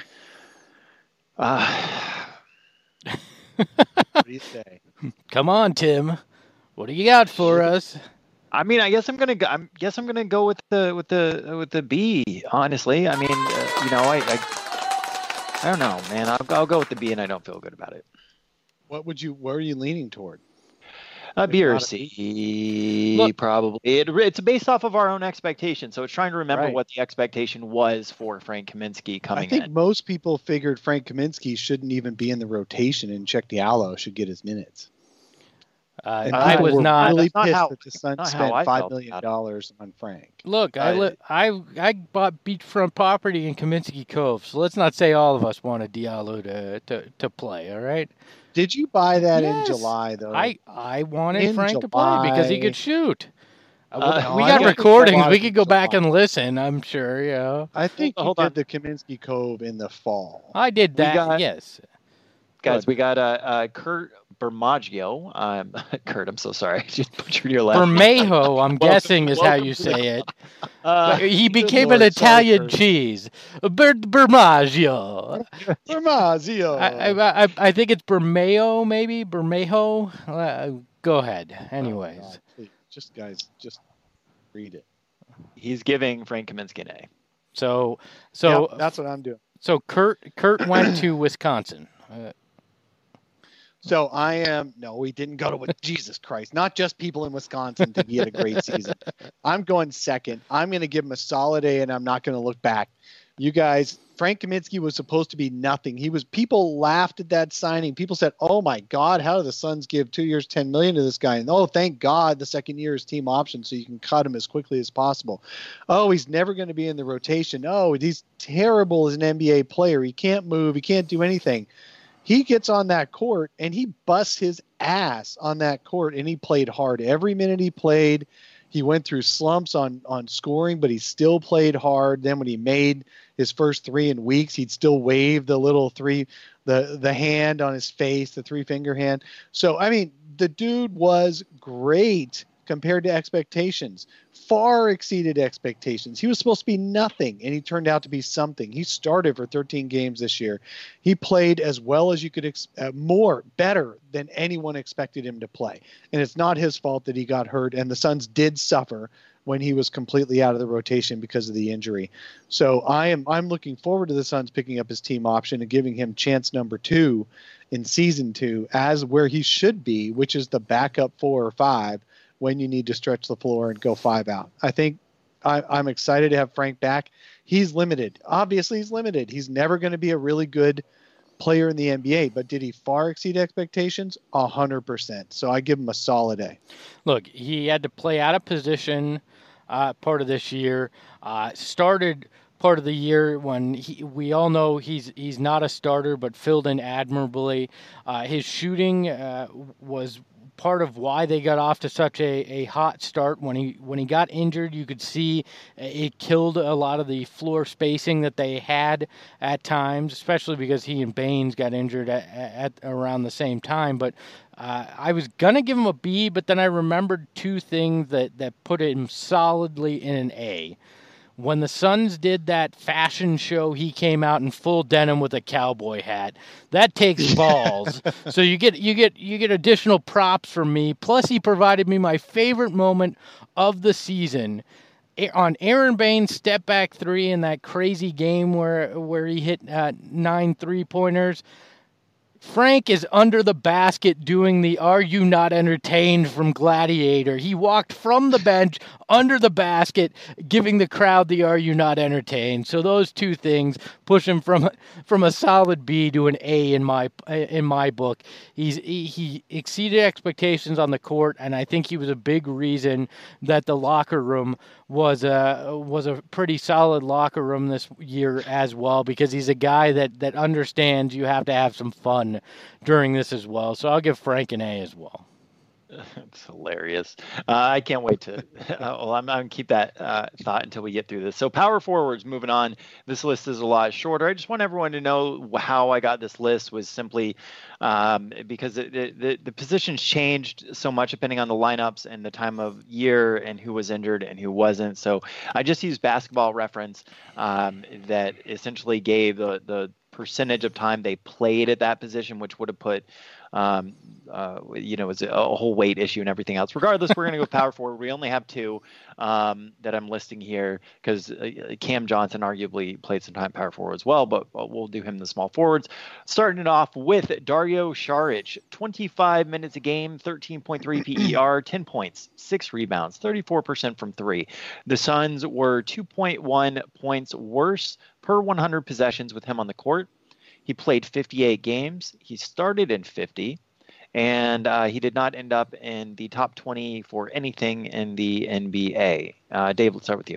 Uh, What do you say? Come on, Tim. What do you got for us? I mean, I guess I'm gonna go. I guess I'm gonna go with the with the with the B. Honestly, I mean, uh, you know, I, I I don't know, man. I'll I'll go with the B, and I don't feel good about it. What would you? Where are you leaning toward? Uh, B or not a- C, Look- probably. It, it's based off of our own expectations, so it's trying to remember Right. what the expectation was for Frank Kaminsky coming I think in. most people figured Frank Kaminsky shouldn't even be in the rotation, and Chuck Diallo should get his minutes. Uh, And Uh, I people was were not. really That's not pissed how- that the Suns not how spent I five felt million about it. dollars on Frank. Look, I, Uh, li- I I bought beachfront property in Kaminsky Cove, so let's not say all of us wanted Diallo to, to, to play. All right, Did you buy that Yes. in July though? I I wanted In Frank to play because he July. could shoot. Uh, Uh, we I got think recordings. July We was could go back July. and listen. I'm sure. You know, I think Hold you on. did the Kaminsky Cove in the fall. I did We that. got- yes. Guys, we got uh, uh, Kurt Bermaggio. Um, Kurt, I'm so sorry. I just butchered your last name. Bermejo, I'm Welcome- guessing is how welcome you to say the- it. Uh, He good became Lord, an sorry, Italian Kurt. cheese. Ber- Bermaggio. Bermazio. I, I, I, I think it's Bermeo, maybe? Bermejo? Uh, go ahead. Anyways. Oh, God, please, just guys, just read it. he's giving Frank Kaminsky an A. So, so Yep, that's what I'm doing. So Kurt Kurt went to Wisconsin. Uh, So I am no, we didn't go to Jesus Christ. Not just people in Wisconsin think he had a great season. I'm going second. I'm going to give him a solid A, and I'm not going to look back. You guys, Frank Kaminsky was supposed to be nothing. He was. People laughed at that signing. People said, "Oh my God, how do the Suns give two years, ten million to this guy?" And oh, thank God, the second year is team option, so you can cut him as quickly as possible. Oh, he's never going to be in the rotation. Oh, he's terrible as an N B A player. He can't move. He can't do anything. He gets on that court and he busts his ass on that court, and he played hard every minute he played. He went through slumps on on scoring, but he still played hard. Then when he made his first three in weeks, he'd still wave the little three, the the hand on his face, the three finger hand. So I mean, the dude was great compared to expectations, far exceeded expectations. He was supposed to be nothing, and he turned out to be something. He started for thirteen games this year. He played as well as you could, ex- uh, more, better than anyone expected him to play. And it's not his fault that he got hurt, and the Suns did suffer when he was completely out of the rotation because of the injury. So I am I'm looking forward to the Suns picking up his team option and giving him chance number two in season two as where he should be, which is the backup four or five when you need to stretch the floor and go five out. I think I, I'm excited to have Frank back. He's limited. Obviously, he's limited. He's never going to be a really good player in the N B A, but did he far exceed expectations? A hundred percent. So I give him a solid A. Look, he had to play out of position uh, part of this year. Uh, started part of the year when he, we all know he's he's not a starter, but filled in admirably. Uh, his shooting uh, was part of why they got off to such a, a hot start. When he when he got injured, you could see it killed a lot of the floor spacing that they had at times, especially because he and Baines got injured at, at around the same time. But uh, I was going to give him a B, but then I remembered two things that, that put him solidly in an A. When the Suns did that fashion show, he came out in full denim with a cowboy hat. That takes balls. So you get you get you get additional props from me. Plus, he provided me my favorite moment of the season on Aaron Baines' step back three in that crazy game where where he hit uh, nine three pointers. Frank is under the basket doing the "Are You Not Entertained" from Gladiator. He walked from the bench under the basket, giving the crowd the "Are You Not Entertained." So those two things push him from from a solid B to an A in my in my book. He's he, he exceeded expectations on the court, and I think he was a big reason that the locker room was a was a pretty solid locker room this year as well, because he's a guy that that understands you have to have some fun during this as well. So I'll give Frank an A as well. It's hilarious. Uh, I can't wait to. Uh, well, I'm, I'm going to keep that uh, thought until we get through this. So power forwards, moving on. This list is a lot shorter. I just want everyone to know how I got this list was simply um, because it, it, the, the positions changed so much depending on the lineups and the time of year and who was injured and who wasn't. So I just used Basketball Reference um, that essentially gave the, the percentage of time they played at that position, which would have put um, uh, you know, it's a, a whole weight issue and everything else. Regardless, we're going to go power forward. We only have two um, that I'm listing here because uh, Cam Johnson arguably played some time power forward as well, but we'll do him the small forwards. Starting it off with Dario Saric, twenty-five minutes a game, thirteen point three P E R, ten points, six rebounds, thirty-four percent from three. The Suns were two point one points worse per one hundred possessions with him on the court. He played fifty-eight games. He started in fifty, and uh, he did not end up in the top twenty for anything in the N B A. Uh, Dave, let's start with you.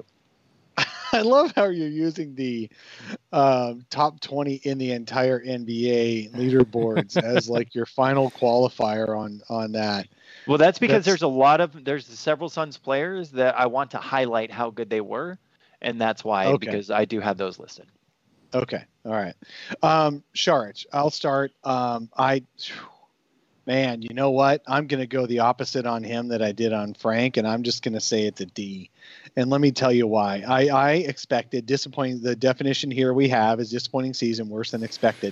I love how you're using the um, top twenty in the entire N B A leaderboards as like your final qualifier on on that. Well, that's because That's- there's a lot of there's several Suns players that I want to highlight how good they were, and that's why Okay. because I do have those listed. Okay. All right. Um, Saric, I'll start. Um, I, Man, you know what? I'm going to go the opposite on him that I did on Frank, and I'm just going to say it's a D. And let me tell you why. I, I expected disappointing. The definition here we have is disappointing season, worse than expected.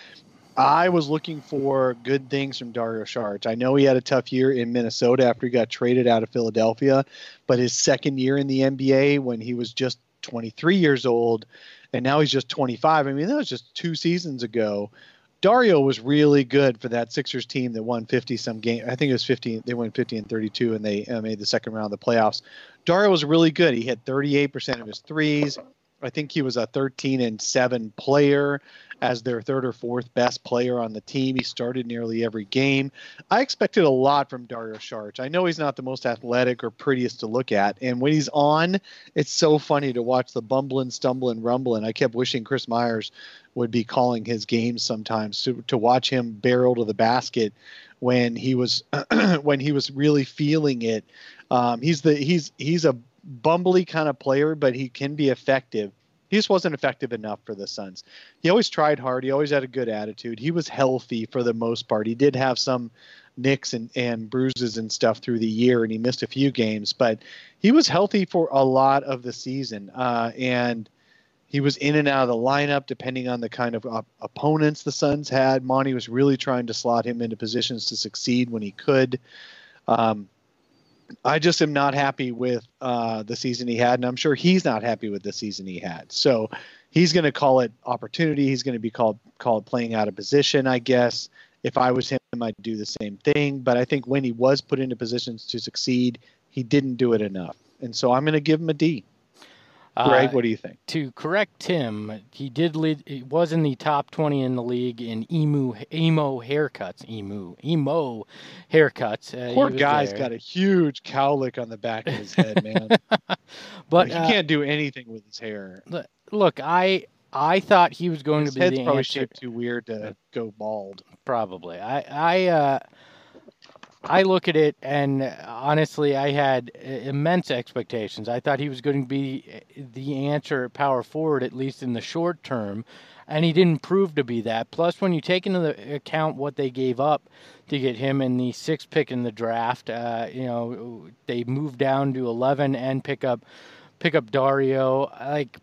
I was looking for good things from Dario Saric. I know he had a tough year in Minnesota after he got traded out of Philadelphia, but his second year in the N B A when he was just twenty-three years old, and now he's just twenty-five. I mean, that was just two seasons ago. Dario was really good for that Sixers team that won fifty some game. I think it was fifty. They won fifty and thirty-two, and they uh, made the second round of the playoffs. Dario was really good. He hit thirty-eight percent of his threes. I think he was a thirteen and seven player as their third or fourth best player on the team. He started nearly every game. I expected a lot from Dario Saric. I know he's not the most athletic or prettiest to look at, and when he's on, it's so funny to watch the bumbling, stumbling, rumbling. I kept wishing Chris Myers would be calling his games sometimes to, to watch him barrel to the basket when he was when he was really feeling it. Um, he's the he's he's a bumbly kind of player, but he can be effective. He just wasn't effective enough for the Suns. He always tried hard. He always had a good attitude. He was healthy for the most part. He did have some nicks and, and bruises and stuff through the year, and he missed a few games, but he was healthy for a lot of the season. Uh, and he was in and out of the lineup depending on the kind of op- opponents the Suns had. Monty was really trying to slot him into positions to succeed when he could. Um, I just am not happy with uh, the season he had, and I'm sure he's not happy with the season he had. So he's going to call it opportunity. He's going to be called called playing out of position, I guess. If I was him, I'd do the same thing. But I think when he was put into positions to succeed, he didn't do it enough. And so I'm going to give him a D. Greg, uh, what do you think? To correct Tim, he did lead. He was in the top twenty in the league in emo emo haircuts. Emo emo haircuts. Uh, Poor guy's there. Got a huge cowlick on the back of his head, man. But he uh, can't do anything with his hair. Look, I I thought he was going his to be head's the probably answer. Shaped too weird to go bald. Probably. I I. Uh, I look at it, and honestly, I had immense expectations. I thought he was going to be the answer at power forward, at least in the short term, and he didn't prove to be that. Plus, when you take into account what they gave up to get him in the sixth pick in the draft, uh, you know, they moved down to eleven and pick up pick up Dario. Like,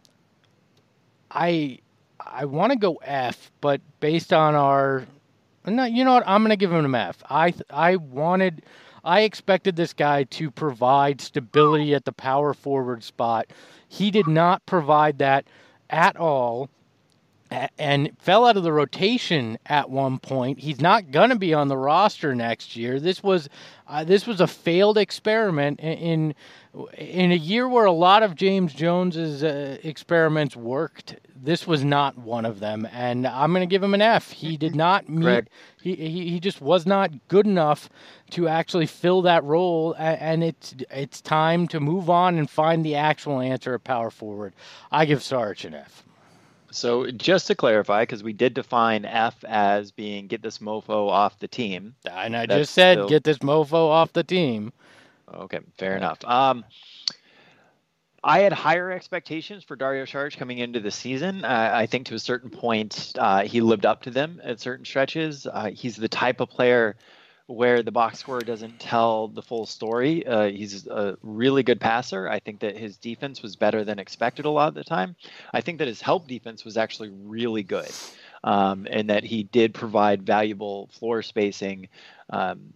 I I want to go F, but based on our No, you know what? I'm going to give him an F. I I wanted, I expected this guy to provide stability at the power forward spot. He did not provide that at all, and fell out of the rotation at one point. He's not going to be on the roster next year. This was uh, this was a failed experiment in in a year where a lot of James Jones's uh, experiments worked. This was not one of them, and I'm going to give him an F. He did not meet. He, he he just was not good enough to actually fill that role, and it's it's time to move on and find the actual answer at power forward. I give Saric an F. So just to clarify, because we did define F as being get this mofo off the team. And I just said still... get this mofo off the team. Okay, fair enough. Um, I had higher expectations for Dario Saric coming into the season. Uh, I think to a certain point, uh, he lived up to them at certain stretches. Uh, he's the type of player where the box score doesn't tell the full story. Uh, he's a really good passer. I think that his defense was better than expected a lot of the time. I think that his help defense was actually really good, um, and that he did provide valuable floor spacing um,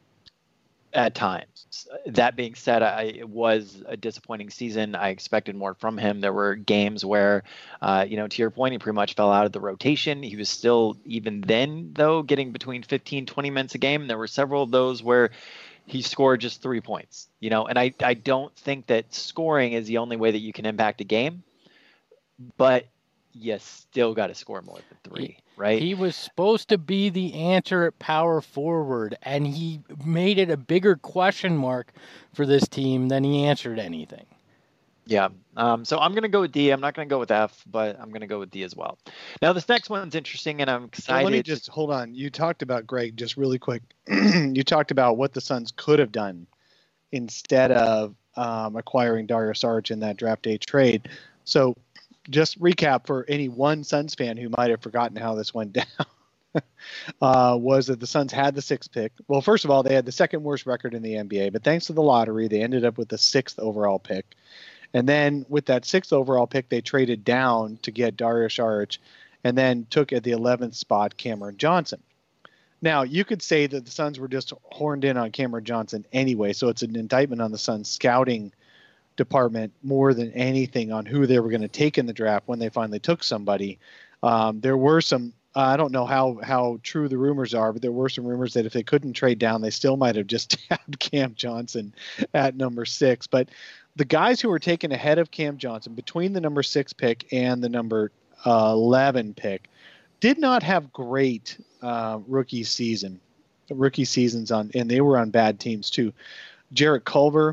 at times. That being said, I, it was a disappointing season. I expected more from him. There were games where, uh, you know, to your point, he pretty much fell out of the rotation. He was still, even then, though, getting between fifteen, twenty minutes a game. There were several of those where he scored just three points, you know, and I, I don't think that scoring is the only way that you can impact a game, but you still got to score more than three. Right? He was supposed to be the answer at power forward, and he made it a bigger question mark for this team than he answered anything. Yeah. Um, so I'm going to go with D. I'm not going to go with F, but I'm going to go with D as well. Now, this next one's interesting, and I'm excited. Let me just hold on. You talked about, Greg, just really quick. You talked about what the Suns could have done instead of um, acquiring Dario Saric in that draft day trade. So just recap for any one Suns fan who might have forgotten how this went down. uh, was that the Suns had the sixth pick. Well, first of all, they had the second worst record in the N B A, but thanks to the lottery, they ended up with the sixth overall pick. And then with that sixth overall pick, they traded down to get Dario Saric, and then took at the eleventh spot Cameron Johnson. Now, you could say that the Suns were just horned in on Cameron Johnson anyway, so it's an indictment on the Suns scouting department more than anything on who they were going to take in the draft when they finally took somebody. Um, there were some, uh, I don't know how, how true the rumors are, but there were some rumors that if they couldn't trade down, they still might have just tabbed Cam Johnson at number six. But the guys who were taken ahead of Cam Johnson between the number six pick and the number uh, eleven pick did not have great uh, rookie season, rookie seasons on, and they were on bad teams too. Jarrett Culver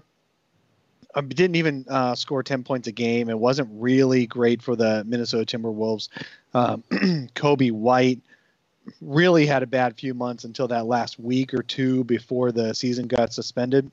uh, didn't even uh, score ten points a game. It wasn't really great for the Minnesota Timberwolves. Um, Kobe White really had a bad few months until that last week or two before the season got suspended.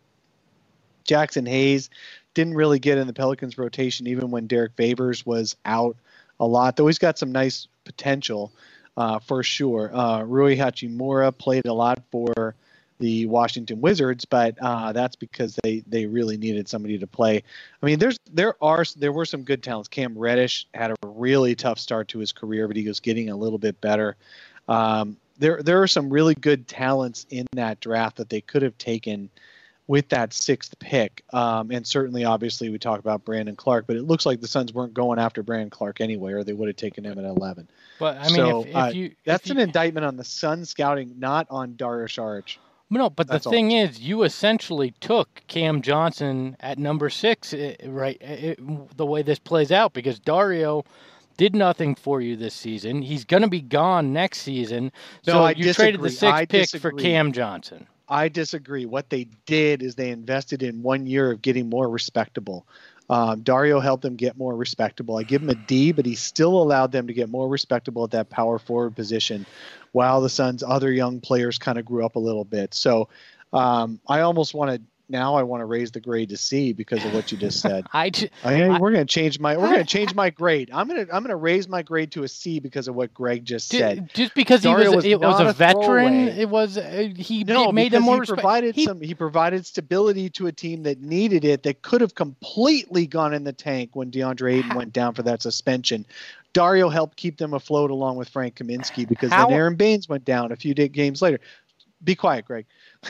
Jackson Hayes didn't really get in the Pelicans rotation even when Derek Favors was out a lot, though he's got some nice potential uh, for sure. Uh, Rui Hachimura played a lot for the Washington Wizards, but uh, that's because they, they really needed somebody to play. I mean, there's there are there were some good talents. Cam Reddish had a really tough start to his career, but he was getting a little bit better. Um, there there are some really good talents in that draft that they could have taken with that sixth pick. Um, and certainly, obviously, we talk about Brandon Clark, but it looks like the Suns weren't going after Brandon Clark anyway, or they would have taken him at eleven. But I mean, so, if, if uh, you, that's if an you, indictment on the Suns scouting, not on Dario Saric. No, but That's the all. thing is, you essentially took Cam Johnson at number six, eh, right? It, the way this plays out, because Dario did nothing for you this season. He's going to be gone next season. No, so I you traded the disagree. sixth I pick for disagree. Cam Johnson. I disagree. What they did is they invested in one year of getting more respectable. Um, Dario helped them get more respectable. I give him a D, but he still allowed them to get more respectable at that power forward position while the Suns' other young players kind of grew up a little bit. So um, I almost want to now I want to raise the grade to C because of what you just said. I, ju- I, I we're going to change my we're going to change my grade. I'm going to I'm going to raise my grade to a C because of what Greg just ju- said. just because he Dario was, was it was not a a veteran, throwaway. it was uh, he No, made because him more he respect- provided he- some. He provided stability to a team that needed it. That could have completely gone in the tank when DeAndre Ayton went down for that suspension. Dario helped keep them afloat along with Frank Kaminsky because How- then Aaron Baines went down a few day, games later. Be quiet, Greg.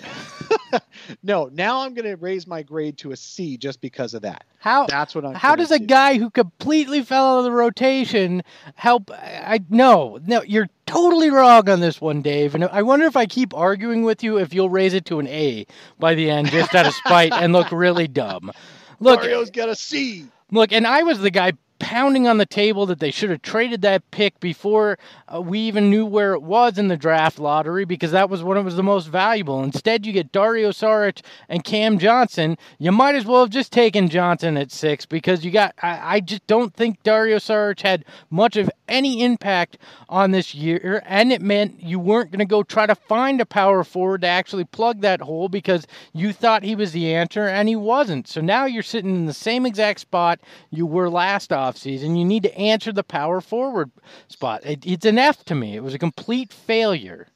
No, now I'm going to raise my grade to a C just because of that. How That's what I'm. How does a do. guy who completely fell out of the rotation help? I no, no, you're totally wrong on this one, Dave. And I wonder if I keep arguing with you, if you'll raise it to an A by the end, just out of spite, and look really dumb. Look, Dario's got a C. look, and I was the guy pounding on the table that they should have traded that pick before uh, we even knew where it was in the draft lottery, because that was when it was the most valuable. Instead, you get Dario Saric and Cam Johnson. You might as well have just taken Johnson at six, because you got. I, I just don't think Dario Saric had much of any impact on this year, and it meant you weren't going to go try to find a power forward to actually plug that hole because you thought he was the answer, and he wasn't. So now you're sitting in the same exact spot you were last offseason. You need to answer the power forward spot. It, it's an F to me. It was a complete failure.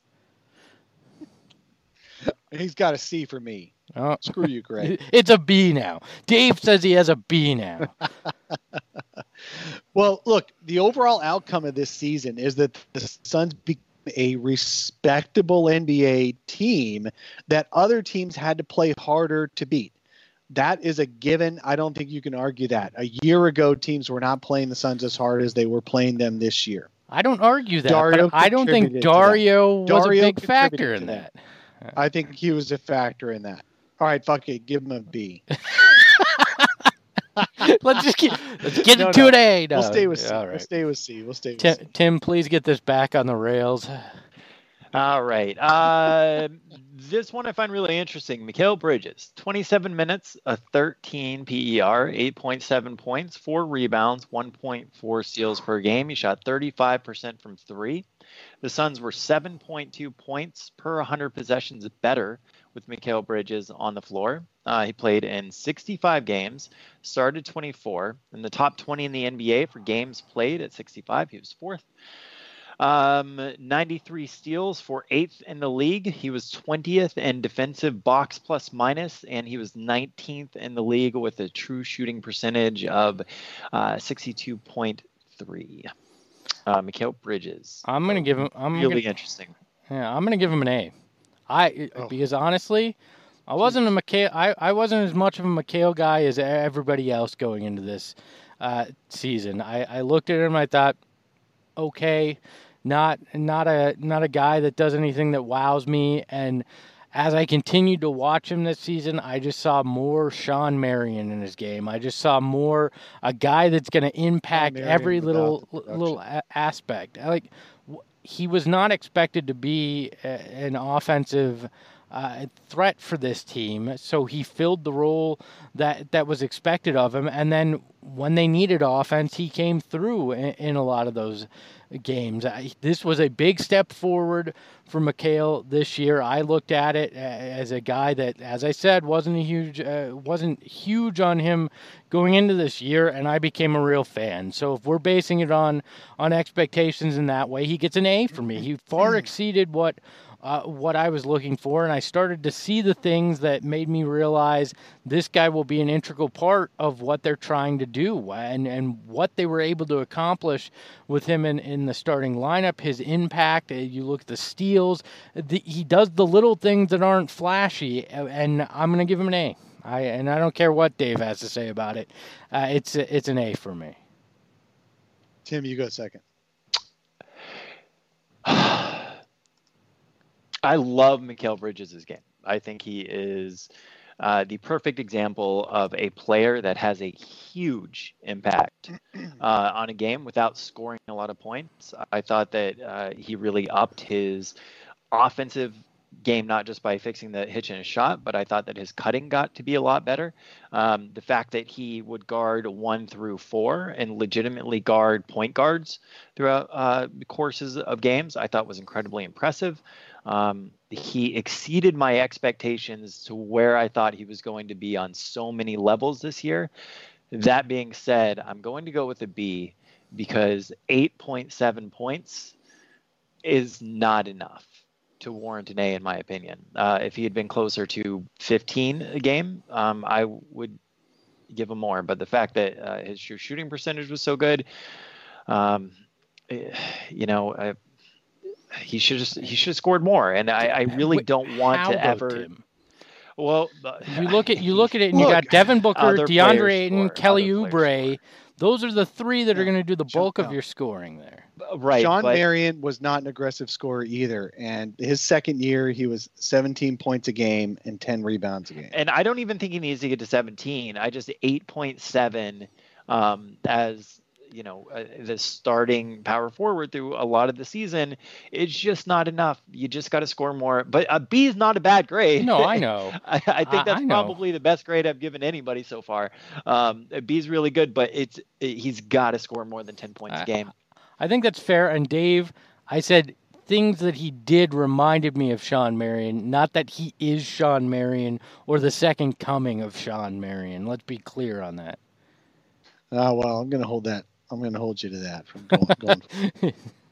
He's got a C for me. Oh. Screw you, Greg. It's a B now. Dave says he has a B now. Well, look, the overall outcome of this season is that the Suns became a respectable N B A team that other teams had to play harder to beat. That is a given. I don't think you can argue that. A year ago, teams were not playing the Suns as hard as they were playing them this year. I don't argue that, Dario but I don't think contributed to that. Dario was Dario a big factor contributed in to that. I think he was a factor in that. All right, fuck it. Give him a B. Let's just get let's get No, it to no. an A. No. We'll stay with C. All We'll right. stay with C. We'll stay with Tim, C. Tim, please get this back on the rails. All right. Uh, this one I find really interesting. Mikal Bridges, twenty-seven minutes, a thirteen P E R, eight point seven points, four rebounds, one point four steals per game. He shot thirty-five percent from three. The Suns were seven point two points per one hundred possessions better with Mikal Bridges on the floor. Uh, he played in sixty-five games, started twenty-four, in the top twenty in the N B A for games played at sixty-five. He was fourth. Um, ninety-three steals for eighth in the league. He was twentieth in defensive box plus minus, and he was nineteenth in the league with a true shooting percentage of uh, sixty-two point three. Uh, Mikal Bridges. I'm gonna give him. I'm really gonna, interesting. Yeah, I'm gonna give him an A. I Oh. because honestly, I wasn't a McHale. I, I wasn't as much of a McHale guy as everybody else going into this uh, season. I, I looked at him. I thought, okay, not not a not a guy that does anything that wows me. And as I continued to watch him this season, I just saw more Sean Marion in his game. I just saw more a guy that's going to impact Marion every without little the production. little a- aspect. Like w- he was not expected to be a, an offensive uh, threat for this team, so he filled the role that that was expected of him. And then when they needed offense, he came through in, in a lot of those games. I, this was a big step forward for Mikal this year. I looked at it as a guy that, as I said, wasn't a huge uh, wasn't huge on him going into this year, and I became a real fan. So if we're basing it on on expectations in that way, he gets an A for me. He far exceeded what uh, what I was looking for, and I started to see the things that made me realize this guy will be an integral part of what they're trying to do and, and what they were able to accomplish with him in, in the starting lineup, his impact. You look at the steals. The, he does the little things that aren't flashy, and I'm going to give him an A. I, and I don't care what Dave has to say about it. Uh, it's, it's an A for me. Tim, you go second. I love Mikal Bridges' game. I think he is uh, the perfect example of a player that has a huge impact uh, on a game without scoring a lot of points. I thought that uh, he really upped his offensive game, not just by fixing the hitch in his shot, but I thought that his cutting got to be a lot better. Um, the fact that he would guard one through four and legitimately guard point guards throughout uh, the courses of games, I thought was incredibly impressive. Um, he exceeded my expectations to where I thought he was going to be on so many levels this year. That being said, I'm going to go with a B because eight point seven points is not enough to warrant an A, in my opinion. Uh, if he had been closer to fifteen a game, um, I would give him more. But the fact that uh, his shooting percentage was so good, um, you know, I, he should just he should have scored more. And I, I really don't want How to though, ever. Tim? Well, You look at you look at it, and Look, you got Devin Booker, other DeAndre players Ayton, score, Kelly other players Oubre. Those are the three that are Yeah. going to do the Sean- bulk of no. your scoring there. right, Sean but, Marion was not an aggressive scorer either. And his second year, he was seventeen points a game and ten rebounds a game. and I don't even think he needs to get to seventeen. I just eight point seven um, as you know uh, the starting power forward through a lot of the season. It's just not enough. You just got to score more. But a B is not a bad grade. No, I know. I, I I- think that's I know. probably the best grade I've given anybody so far. Um, a B is really good, but it's it, he's got to score more than ten points I- a game. I think that's fair. And Dave, I said things that he did reminded me of Sean Marion, not that he is Sean Marion or the second coming of Sean Marion. Let's be clear on that. Oh, well, I'm going to hold that. I'm going to hold you to that from going, going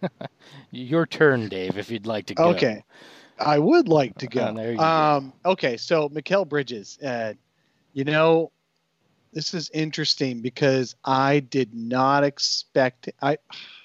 Your turn, Dave, if you'd like to go. Okay. I would like to go. Uh, there you go. um, okay, so Mikal Bridges, uh, you know, this is interesting because I did not expect I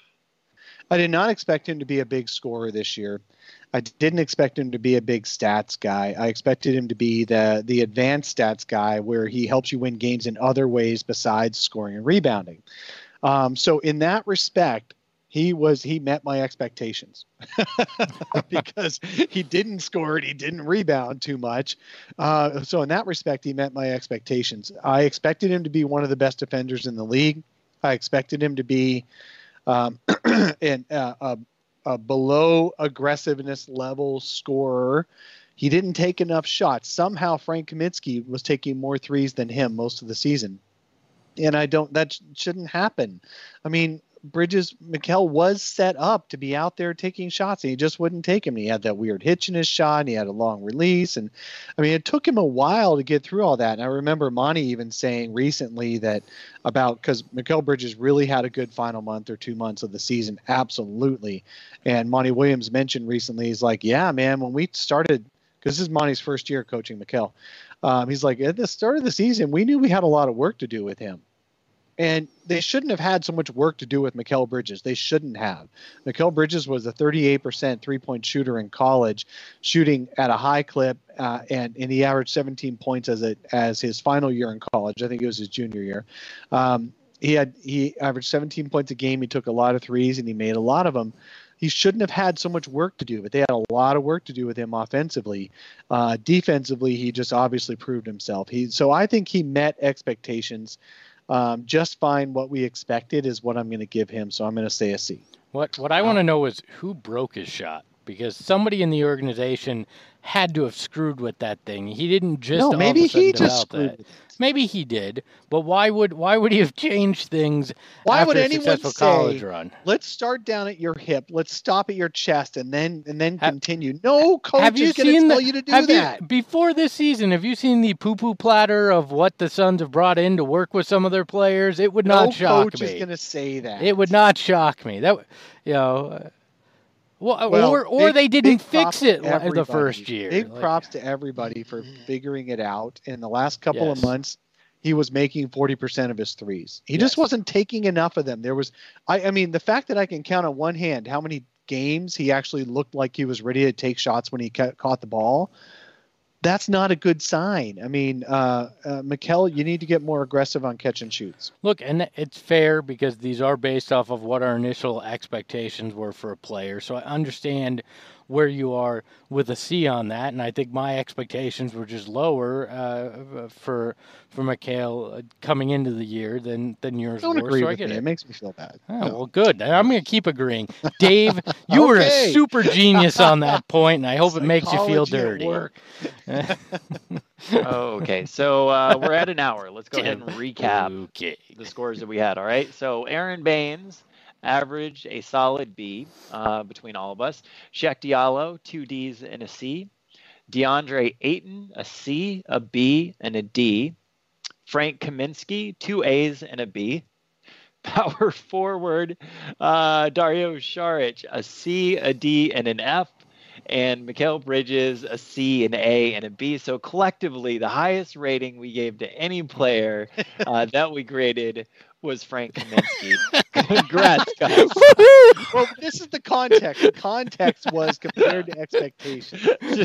I did not expect him to be a big scorer this year. I didn't expect him to be a big stats guy. I expected him to be the the advanced stats guy where he helps you win games in other ways besides scoring and rebounding. Um, so in that respect, he was he met my expectations because he didn't score and he didn't rebound too much. Uh, so in that respect, he met my expectations. I expected him to be one of the best defenders in the league. I expected him to be um, an, uh, a, a below aggressiveness level scorer. He didn't take enough shots. Somehow Frank Kaminsky was taking more threes than him most of the season. And I don't, that sh- shouldn't happen. I mean, Bridges, Mikal was set up to be out there taking shots, and he just wouldn't take him. He had that weird hitch in his shot, and he had a long release. And I mean, it took him a while to get through all that. And I remember Monty even saying recently that about, because Mikal Bridges really had a good final month or two months of the season. Absolutely. And Monty Williams mentioned recently, he's like, yeah, man, when we started, because this is Monty's first year coaching Mikal. Um, he's like, at the start of the season, we knew we had a lot of work to do with him. And they shouldn't have had so much work to do with Mikal Bridges. They shouldn't have. Mikal Bridges was a thirty-eight percent three-point shooter in college, shooting at a high clip, uh, and, and he averaged seventeen points as a, as his final year in college. I think it was his junior year. Um, he had he averaged seventeen points a game. He took a lot of threes, and he made a lot of them. He shouldn't have had so much work to do, but they had a lot of work to do with him offensively. Uh, defensively, he just obviously proved himself. He so I think he met expectations. Um, just fine. What we expected is what I'm going to give him. So I'm going to say a C. What what I want to know is who broke his shot, because somebody in the organization had to have screwed with that thing. He didn't just no, all maybe of a sudden he just develop screwed that. with it. Maybe he did, but why would why would he have changed things Why after would a anyone successful say, college run? Let's start down at your hip, let's stop at your chest, and then and then Have- continue? No coach Have you is going to seen tell the, you to do have that. You, before this season, have you seen the poo-poo platter of what the Suns have brought in to work with some of their players? It would no not shock coach me. is going to say that. It would not shock me. That, you know, uh, well, Well, or or big- they didn't big props fix it to li- the everybody. first year. Big Like- props to everybody for figuring it out. In the last couple Yes. of months, he was making forty percent of his threes. He Yes. just wasn't taking enough of them. There was, I, I mean, the fact that I can count on one hand how many games he actually looked like he was ready to take shots when he ca- caught the ball, that's not a good sign. I mean, uh, uh, Mikal, you need to get more aggressive on catch and shoots. Look, and it's fair because these are based off of what our initial expectations were for a player. So I understand where you are with a C on that, and I think my expectations were just lower uh, for for Mikal uh, coming into the year than than yours Don't were. agree so I with get me. it. It makes me feel bad. Oh, No. well, good. I'm going to keep agreeing. Dave, you were a Okay. super genius on that point, and I hope it makes you feel Psychology at dirty. work. Okay, so uh, we're at an hour. Let's go ahead and recap Okay. the scores that we had. All right. So Aaron Baines averaged a solid B uh, between all of us. Shaq Diallo, two D's and a C. DeAndre Ayton, a C, a B, and a D. Frank Kaminsky, two A's and a B. Power forward, uh, Dario Saric, a C, a D, and an F. And Mikal Bridges, a C, an A, and a B. So collectively, the highest rating we gave to any player uh, that we graded was Frank Kaminsky. Congrats, guys. Well, this is the context. The context was compared to expectations.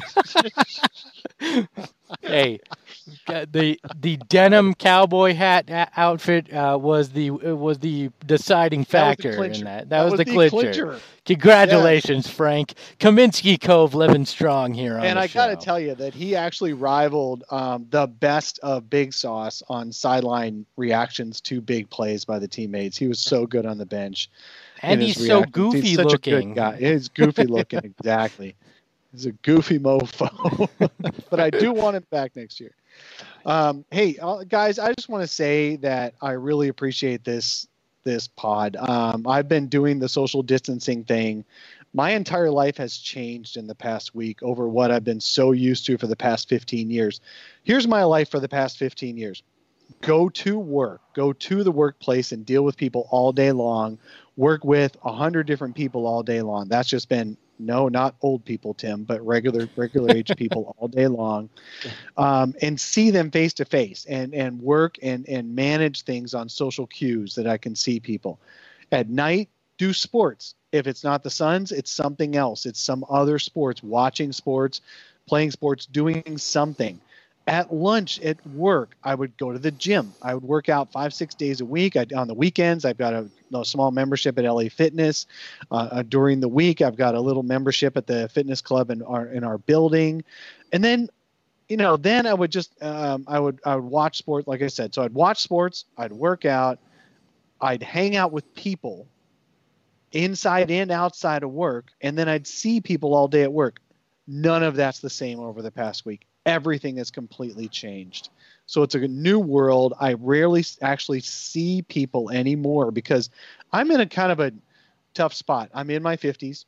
Hey, uh, the the denim cowboy hat a- outfit uh, was the uh, was the deciding That was the factor in clincher. that. That, was, the clincher. clincher. Congratulations, Frank Kaminsky Cove, living strong here on And the I show. got to tell you that he actually rivaled um, the best of Big Sauce on sideline reactions to big plays by the teammates. He was so good on the bench. and in he's his so reactions. goofy He's such looking. a good guy. He's goofy looking, exactly. He's a goofy mofo. But I do want him back next year. Um, hey, uh, guys, I just want to say that I really appreciate this this pod. Um, I've been doing the social distancing thing. My entire life has changed in the past week over what I've been so used to for the past fifteen years. Here's my life for the past fifteen years. Go to work, go to the workplace and deal with people all day long, work with a hundred different people all day long. That's just been, no, not old people, Tim, but regular, regular age people all day long, um, and see them face to face and, and work and, and manage things on social cues that I can see people. At night, do sports. If it's not the Suns, it's something else. It's some other sports, watching sports, playing sports, doing something. At lunch, at work, I would go to the gym. I would work out five, six days a week. I, on the weekends, I've got a, a small membership at L A Fitness. Uh, uh, during the week, I've got a little membership at the fitness club in our in our building. And then, you know, then I would just um, I would I would watch sports, like I said. So I'd watch sports, I'd work out, I'd hang out with people, inside and outside of work, and then I'd see people all day at work. None of that's the same over the past week. Everything has completely changed. So it's a new world. I rarely actually see people anymore because I'm in a kind of a tough spot. I'm in my fifties.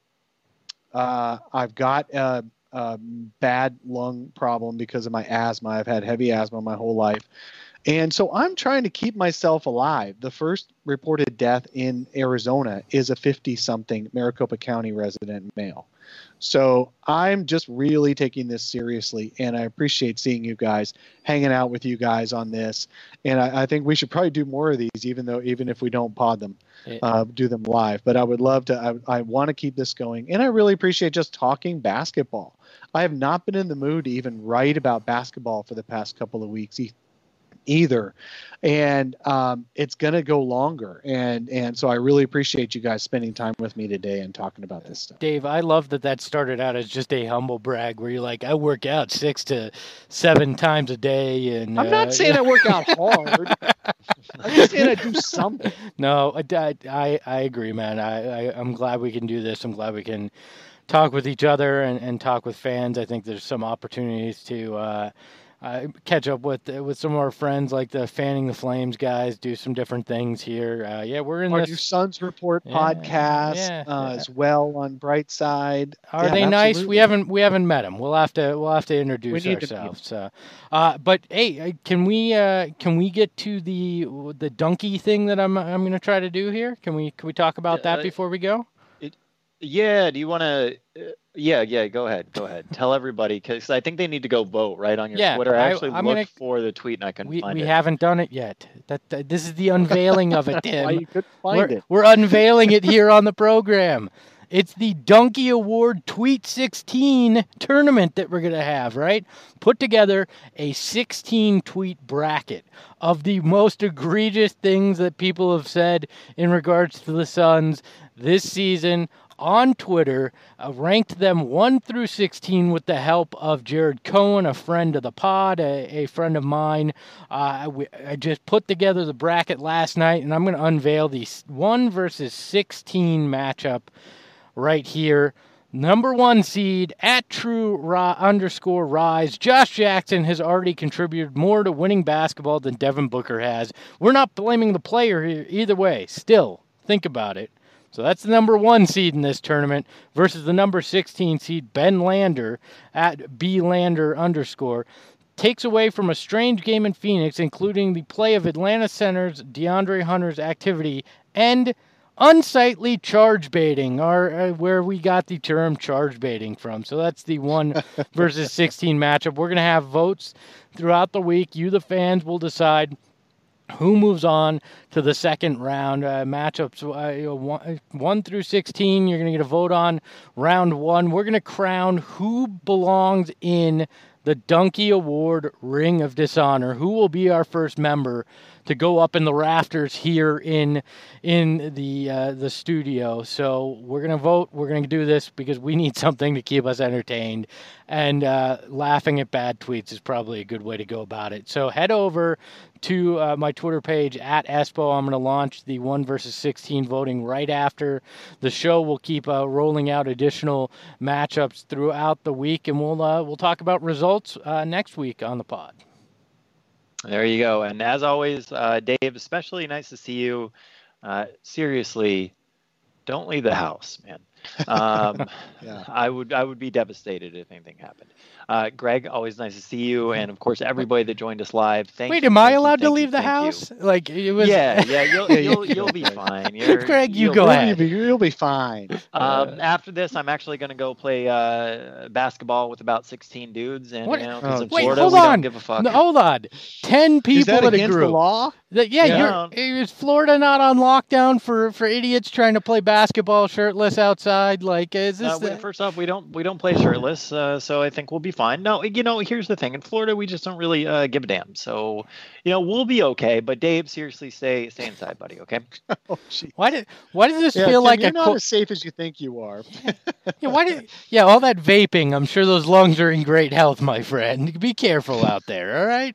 Uh, I've got a, a bad lung problem because of my asthma. I've had heavy asthma my whole life. And so I'm trying to keep myself alive. The first reported death in Arizona is a fifty-something Maricopa County resident male. So I'm just really taking this seriously, and I appreciate seeing you guys, hanging out with you guys on this. And I, I think we should probably do more of these, even though even if we don't pod them, uh, do them live. But I would love to. I, I want to keep this going, and I really appreciate just talking basketball. I have not been in the mood to even write about basketball for the past couple of weeks either, and um, it's going to go longer, and and so I really appreciate you guys spending time with me today and talking about this stuff. Dave, I love that that started out as just a humble brag where you're like, I work out six to seven times a day, and I'm not uh, saying I work out hard. I'm just saying I do something. No, I, I, I agree, man. I, I I'm glad we can do this. I'm glad we can talk with each other and, and talk with fans. I think there's some opportunities to uh, uh, catch up with with some of our friends, like the Fanning the Flames guys, do some different things here. Uh, yeah, we're in our this new Suns Report yeah, podcast yeah, uh, yeah. as well on Brightside. Are yeah, they nice? absolutely. We haven't we haven't met them. We'll have to we'll have to introduce We need to ourselves. So, uh, but hey, can we uh, can we get to the the donkey thing that I'm I'm going to try to do here? Can we can we talk about that Uh, before we go? Yeah. Do you want to? Uh, yeah. Yeah. Go ahead. Go ahead. Tell everybody, because I think they need to go vote right on your Yeah, Twitter. I I- actually I'm looked gonna- for the tweet and I couldn't We find we it. haven't done it yet. That, that this is the unveiling of it, Why Tim. you couldn't find We're, it? we're unveiling it here on the program. It's the Donkey Award Tweet sixteen tournament that we're going to have, right? Put together a sixteen tweet bracket of the most egregious things that people have said in regards to the Suns this season on Twitter, uh, ranked them one through sixteen with the help of Jared Cohen, a friend of the pod, a, a friend of mine. Uh, we, I just put together the bracket last night, and I'm going to unveil the one versus sixteen matchup right here. Number one seed at True Ra- underscore Rise. Josh Jackson has already contributed more to winning basketball than Devin Booker has. We're not blaming the player here either way. Still, think about it. So that's the number one seed in this tournament versus the number sixteen seed, Ben Lander, at B Lander underscore. Takes away from a strange game in Phoenix, including the play of Atlanta center's DeAndre Hunter's activity and unsightly charge baiting, or uh, where we got the term charge baiting from. So that's the one versus sixteen matchup. We're going to have votes throughout the week. You, the fans, will decide who moves on to the second round. Uh, matchups uh, you know, one, one through sixteen, you're going to get a vote on round one. We're going to crown who belongs in the Donkey Award Ring of Dishonor. Who will be our first member to go up in the rafters here in in the uh, the studio. So we're going to vote. We're going to do this because we need something to keep us entertained. And uh, laughing at bad tweets is probably a good way to go about it. So head over to uh, my Twitter page at Espo. I'm going to launch the one versus sixteen voting right after the show. We'll keep uh, rolling out additional matchups throughout the week, and we'll uh, we'll talk about results uh, next week on the pod. There you go. And as always, uh, Dave, especially nice to see you. Uh, seriously, don't leave the house, man. Um, Yeah. I would I would be devastated if anything happened. Uh, Greg, always nice to see you, and of course everybody that joined us live. Thank Wait, you, am thank I you, allowed to thank you, leave the thank you. house? Like it was. Yeah, yeah, you'll Yeah, you you'll can. you'll be fine. You're, Greg, you you'll go be- ahead. You'll be, you'll be fine. Um, after this, I'm actually going to go play uh, basketball with about sixteen dudes, and What? you know, 'cause Oh, in Wait, Florida hold we on. don't give a fuck. No, hold on. Ten people Is that in a against group. the law? That- yeah, Yeah. you're, is Florida not on lockdown for, for idiots trying to play basketball shirtless outside? Like, is this Uh, we- the- first off, we don't we don't play shirtless, uh, so I think we'll be fine. No, you know, here's the thing: in Florida, we just don't really uh, give a damn. So, you know, we'll be okay. But Dave, seriously, stay stay inside, buddy. Okay. Oh, gee. why did why does this Yeah, feel Tim, like you're a not co- as safe as you think you are. yeah, why did yeah all that vaping? I'm sure those lungs are in great health, my friend. Be careful out there. All right.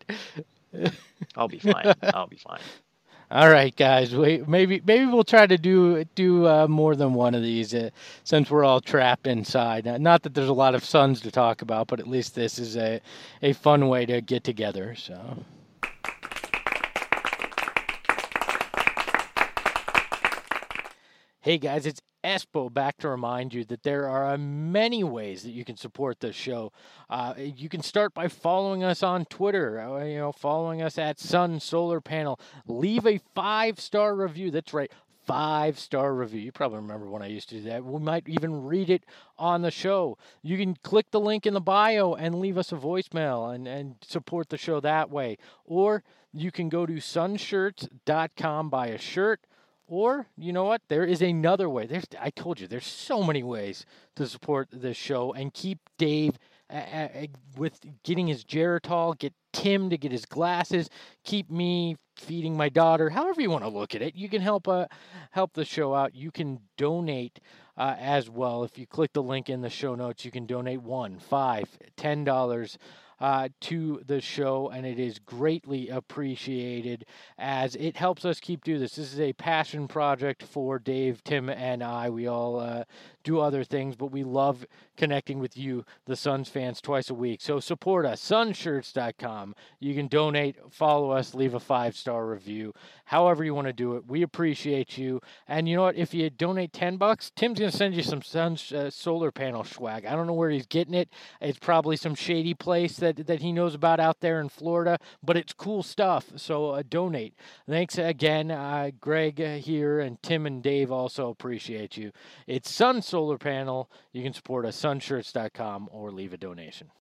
I'll be fine. I'll be fine. All right, guys. Wait, maybe maybe we'll try to do do uh, more than one of these uh, since we're all trapped inside. Uh, not that there's a lot of Suns to talk about, but at least this is a a fun way to get together. So. Hey guys, it's Espo back to remind you that there are many ways that you can support this show. Uh, you can start by following us on Twitter, uh, you know, following us at Sun Solar Panel. Leave a five-star review. That's right, five-star review. You probably remember when I used to do that. We might even read it on the show. You can click the link in the bio and leave us a voicemail and, and support the show that way. Or you can go to sunshirts dot com, buy a shirt. Or, you know what? There is another way. There's, I told you, there's so many ways to support this show and keep Dave uh, uh, with getting his Geritol, get Tim to get his glasses, keep me feeding my daughter. However you want to look at it, you can help uh, help the show out. You can donate uh, as well. If you click the link in the show notes, you can donate one, five, ten dollars. Uh, to the show, and it is greatly appreciated as it helps us keep doing this. This is a passion project for Dave, Tim, and I. We all uh, do other things, but we love connecting with you, the Suns fans, twice a week. So support us, sunshirts dot com. You can donate, follow us, leave a five-star review, however you want to do it. We appreciate you. And you know what? If you donate ten bucks, Tim's going to send you some sun uh, solar panel swag. I don't know where he's getting it. It's probably some shady place that that he knows about out there in Florida, but it's cool stuff, so uh, donate. Thanks again, uh, Greg uh, here, and Tim and Dave also appreciate you. It's Sun Solar Panel. You can support us, sunshirts dot com, or leave a donation.